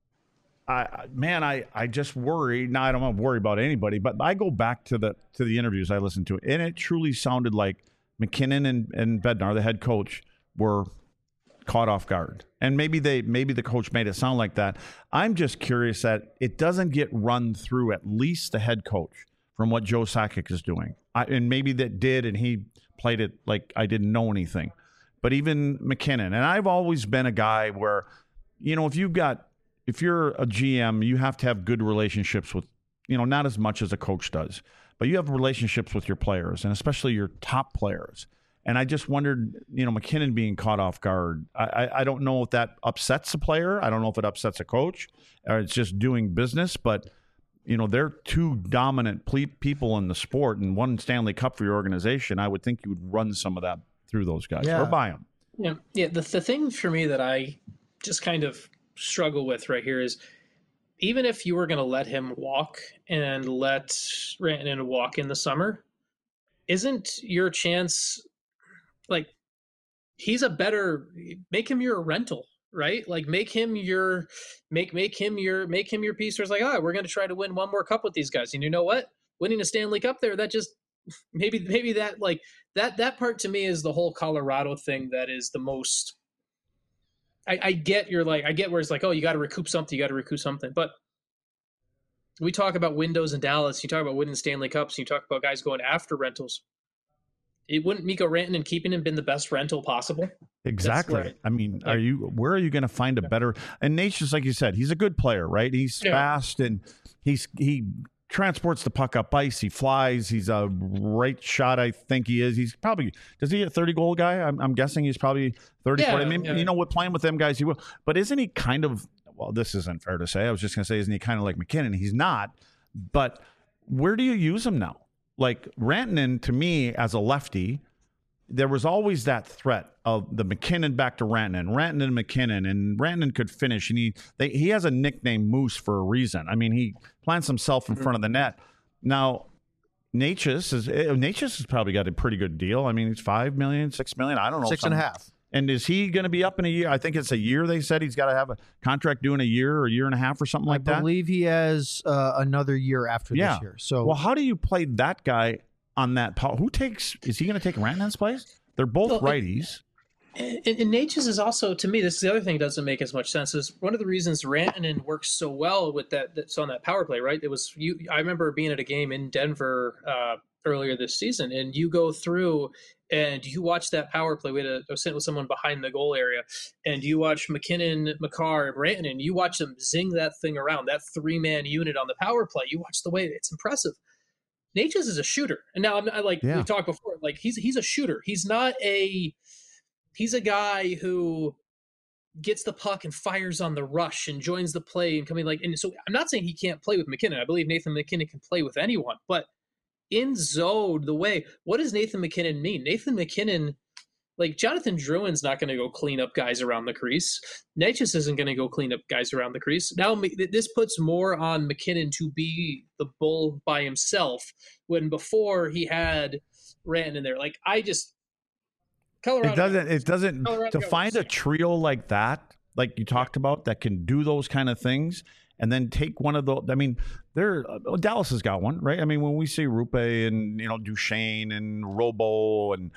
I man, I, I just worry. Now, I don't want to worry about anybody, but I go back to the to the interviews I listened to, and it truly sounded like McKinnon and, and Bednar, the head coach, were caught off guard. And maybe they maybe the coach made it sound like that. I'm just curious that it doesn't get run through at least the head coach from what Joe Sakic is doing. I, and maybe that did, and he played it like I didn't know anything. But even McKinnon, and I've always been a guy where, you know, if you've got, if you're a G M, you have to have good relationships with, you know, not as much as a coach does, but you have relationships with your players, and especially your top players. And I just wondered, you know, McKinnon being caught off guard. I, I, I don't know if that upsets a player. I don't know if it upsets a coach, or it's just doing business. But, you know, they're two dominant ple- people in the sport, and one Stanley Cup for your organization. I would think you would run some of that through those guys yeah. or buy them. Yeah, yeah. The the thing for me that I just kind of struggle with right here is, even if you were going to let him walk and let Rantanen walk in the summer, isn't your chance? Like, he's a better, make him your rental, right? Like, make him your, make, make him your, make him your piece where it's like, oh, we're going to try to win one more cup with these guys. And you know what? Winning a Stanley Cup there, that just, maybe, maybe that, like, that, that part to me is the whole Colorado thing that is the most, I, I get you're like, I get where it's like, oh, you got to recoup something, you got to recoup something. But we talk about windows in Dallas, you talk about winning Stanley Cups, you talk about guys going after rentals. It wouldn't Mikko Rantanen keeping him been the best rental possible? Exactly. Right. I mean, Yeah. are you? Where are you going to find a better? And Nate's just like you said, he's a good player, right? He's Yeah. fast and he's he transports the puck up ice. He flies. He's a right shot. I think he is. He's probably does he a thirty goal guy? I'm, I'm guessing he's probably thirty. Yeah, forty. I mean, yeah. you know, with playing with them guys, he will. But isn't he kind of? Well, this isn't fair to say. I was just going to say, isn't he kind of like McKinnon? He's not. But where do you use him now? Like Rantanen, to me, as a lefty, there was always that threat of the McKinnon back to Rantanen, Rantanen and McKinnon, and Rantanen could finish. And he they, he has a nickname Moose for a reason. I mean, he plants himself in front of the net. Now, Necas is Necas has probably got a pretty good deal. I mean, he's five million, six million. I don't know, Six and a half. And is he going to be up in a year? I think it's a year. They said he's got to have a contract doing a year or a year and a half or something like I that. believe he has uh, another year after Yeah. this year. So, Well, how do you play that guy on that power? Who takes? Is he going to take Rantanen's place? They're both Well, it- righties. And, and Natchez is also, to me, this is the other thing that doesn't make as much sense. Is one of the reasons Rantanen works so well with that. That's on that power play, right? It was you. I remember being at a game in Denver uh, earlier this season, and you go through and you watch that power play. We had a, I was sitting with someone behind the goal area, and you watch McKinnon, Makar, and Rantanen. You watch them zing that thing around, that three man unit on the power play. You watch the way it's impressive. Natchez is a shooter, and now I'm I, like Yeah. we talked before. Like he's he's a shooter. He's not a He's a guy who gets the puck and fires on the rush and joins the play and coming like. And so I'm not saying he can't play with McKinnon. I believe Nathan McKinnon can play with anyone. But in zone, the way, what does Nathan McKinnon mean? Nathan McKinnon, like Jonathan Drouin's not going to go clean up guys around the crease. Natchez isn't going to go clean up guys around the crease. Now this puts more on McKinnon to be the bull by himself when before he had Rantanen in there. Like I just. Colorado It doesn't. It doesn't. Colorado To find a trio like that, like you talked about, that can do those kind of things, and then take one of those. I mean, there. Uh, Dallas has got one, right? I mean, when we see Rupe and you know Duchesne and Robo and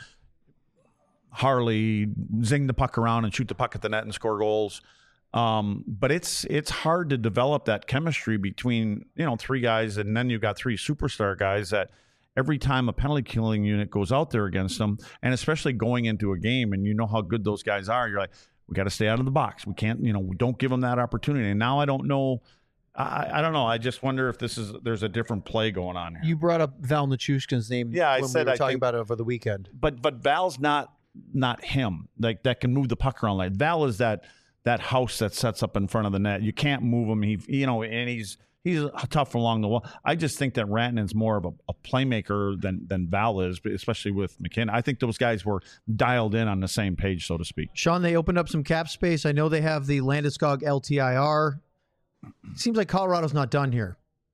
Harley zing the puck around and shoot the puck at the net and score goals. Um, but it's it's hard to develop that chemistry between you know three guys, and then you've got three superstar guys that. Every time a penalty killing unit goes out there against them, and especially going into a game, and you know how good those guys are, you're like, we got to stay out of the box. We can't, you know, we don't give them that opportunity. And now I don't know. I, I don't know. I just wonder if this is there's a different play going on here. You brought up Val Nichushkin's name. Yeah, I when said we were I talking think- about it over the weekend. But but Val's not not him. Like that can move the puck around. Like Val is that that house that sets up in front of the net. You can't move him. He you know, and he's. He's tough along the wall. I just think that Rantanen's more of a, a playmaker than than Val is, especially with McKinnon. I think those guys were dialed in on the same page, so to speak. Sean, they opened up some cap space. I know they have the Landeskog L T I R. Seems like Colorado's not done here.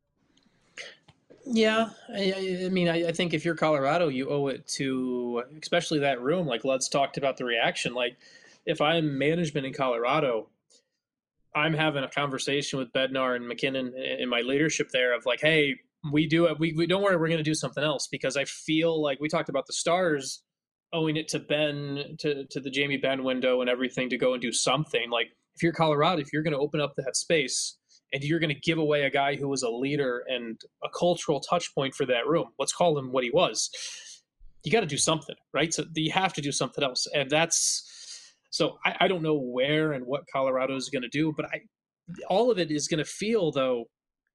Yeah, I, I mean, I, I think if you're Colorado, you owe it to, especially that room. Like Lud's talked about the reaction. Like, if I'm management in Colorado, I'm having a conversation with Bednar and McKinnon in my leadership there of like, hey, we do it. We, we don't worry, we're going to do something else because I feel like we talked about the Stars owing it to Ben, to to the Jamie Benn window and everything to go and do something. Like, if you're Colorado, if you're going to open up that space. And you're going to give away a guy who was a leader and a cultural touch point for that room. Let's call him what he was. You got to do something, right? So you have to do something else. And that's so I, I don't know where and what Colorado is going to do, but I all of it is going to feel, though,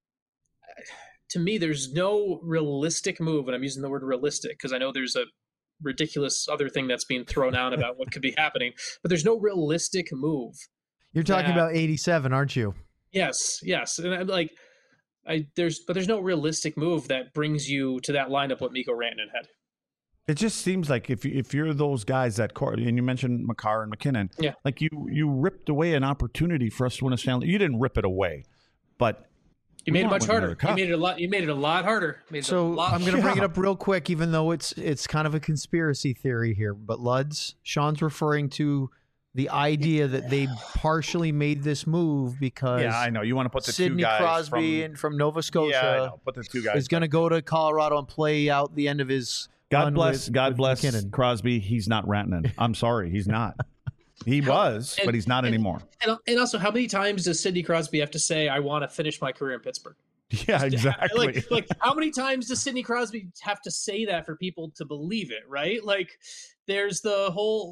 to me, there's no realistic move. And I'm using the word realistic because I know there's a ridiculous other thing that's being thrown out about what could be happening, but there's no realistic move. You're talking that, about eighty-seven, aren't you? Yes, yes, and I'm like, I there's but there's no realistic move that brings you to that lineup what Mikko Rantanen had. It just seems like if if you're those guys that core, and you mentioned Makar and McKinnon, Yeah. like you you ripped away an opportunity for us to win a Stanley. You didn't rip it away, but You made it not much winning harder. another cup. You made it a lot. You made it a lot harder. Made it a So lot I'm going to bring it Yeah. up real quick, even though it's it's kind of a conspiracy theory here. But Luds, Sean's referring to the idea that they partially made this move because yeah, I know you want to put the two Sidney guys Crosby from, and from Nova Scotia yeah, I know. Put the two guys is going to go to Colorado and play out the end of his. God run bless, with- God with bless McKinnon. Crosby. He's not Rantanen. I'm sorry, he's not. He was, and- but he's not and- anymore. And, and also, how many times does Sidney Crosby have to say, "I want to finish my career in Pittsburgh"? Yeah, exactly. Like, like how many times does Sidney Crosby have to say that for people to believe it? Right? Like, there's the whole.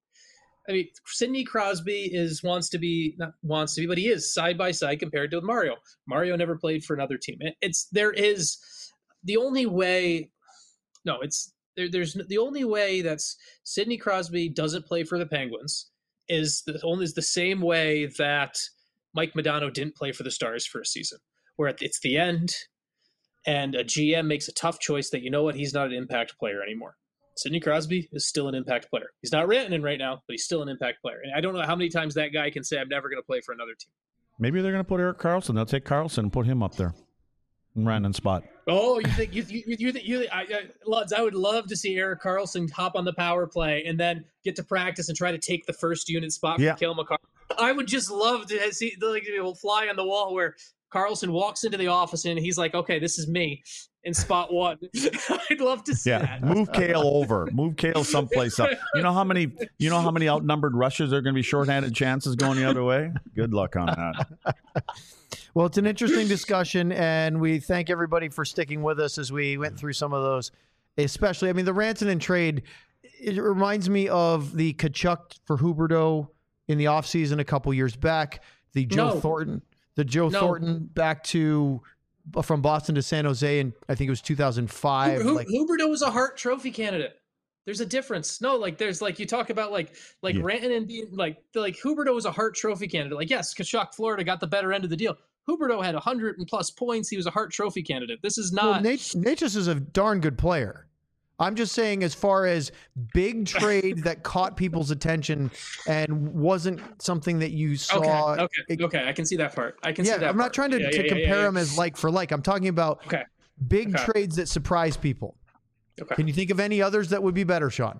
I mean, Sidney Crosby is wants to be not wants to be, but he is side by side compared to Mario. Mario never played for another team. It, it's there is the only way. No, it's there, there's the only way that's Sidney Crosby doesn't play for the Penguins is the only is the same way that Mike Modano didn't play for the Stars for a season, where it's the end, and a G M makes a tough choice that you know what he's not an impact player anymore. Sidney Crosby is still an impact player. He's not Rantanen right now, but he's still an impact player. And I don't know how many times that guy can say, I'm never going to play for another team. Maybe they're going to put Eric Carlson. They'll take Carlson and put him up there in Rantanen's spot. Oh, you think, you, you, you, think- you, I, I, Luds, I would love to see Eric Carlson hop on the power play and then get to practice and try to take the first unit spot Yeah. from Cale Makar. I would just love to see, like, it will fly on the wall where Carlson walks into the office and he's like, okay, this is me. in spot one. I'd love to see Yeah, that. move Kale over. Move Kale someplace else. You know how many? You know how many outnumbered rushers are going to be shorthanded chances going the other way? Good luck on that. Well, it's an interesting discussion, and we thank everybody for sticking with us as we went through some of those. Especially, I mean, the Rantanen trade. It reminds me of the Tkachuk for Huberdeau in the offseason a couple years back. The Joe No. Thornton, the Joe No. Thornton back to from Boston to San Jose, and I think it was two thousand five. Hu- like, Huberdeau was a Hart Trophy candidate. There's a difference. No, like there's like you talk about like like Yeah. Rantanen being like like Huberdeau was a Hart Trophy candidate. Like yes, Tkachuk, Florida got the better end of the deal. Huberdeau had one hundred and plus points. He was a Hart Trophy candidate. This is well, not. Nate, Nate just is a darn good player. I'm just saying, as far as big trade that caught people's attention and wasn't something that you saw. okay, okay, it- okay. I can see that part. I can yeah, see that. I'm not part. trying to, Yeah, to yeah, yeah, compare yeah, them yeah. as like for like. I'm talking about Okay. big Okay. trades that surprise people. Okay. Can you think of any others that would be better, Sean?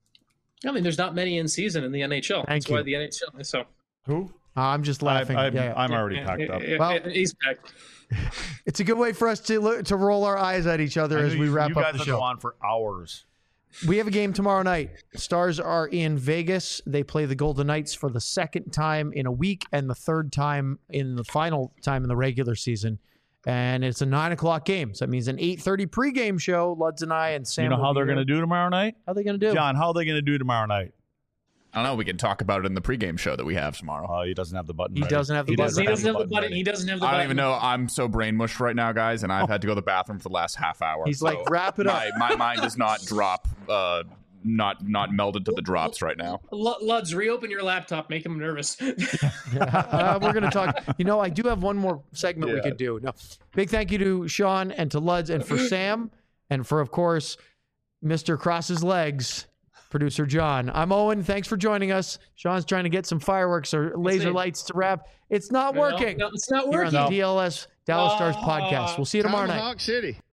I mean, there's not many in season in the N H L. Thank That's why you. the N H L. So Who? Uh, I'm just I, laughing. I, yeah, yeah. I'm already Yeah, packed yeah, up. yeah, Well- yeah, he's back. It's a good way for us to look, to roll our eyes at each other I as know we you, wrap you up guys the will show. go on for hours. We have a game tomorrow night. Stars are in Vegas. They play the Golden Knights for the second time in a week and the third time in the final time in the regular season. And it's a nine o'clock game. So that means an eight thirty pregame show. Luds and I and Sam. You know will how be they're here. going to do tomorrow night? How are they going to do? John, how are they going to do tomorrow night? I don't know. We can talk about it in the pregame show that we have tomorrow. Oh, he doesn't have the button. He ready. doesn't have the He button. doesn't, he doesn't have the button. ready. He doesn't have the I button. don't even know. I'm so brain mushed right now, guys, and I've had to go to the bathroom for the last half hour. He's so like, wrap it up. my, my mind does not drop, uh, not not melded to the drops right now. L- Luds, reopen your laptop. Make him nervous. uh, we're going to talk. You know, I do have one more segment we Yeah. could do. No, big thank you to Sean and to Luds and for Sam and for, of course, Mister Cross's Legs, producer John. I'm Owen. Thanks for joining us. Sean's trying to get some fireworks or laser it. lights to wrap. It's not No, working. no, it's not Here on working. the D L S Dallas Stars Oh. podcast. We'll see you tomorrow night. Tomahawk City.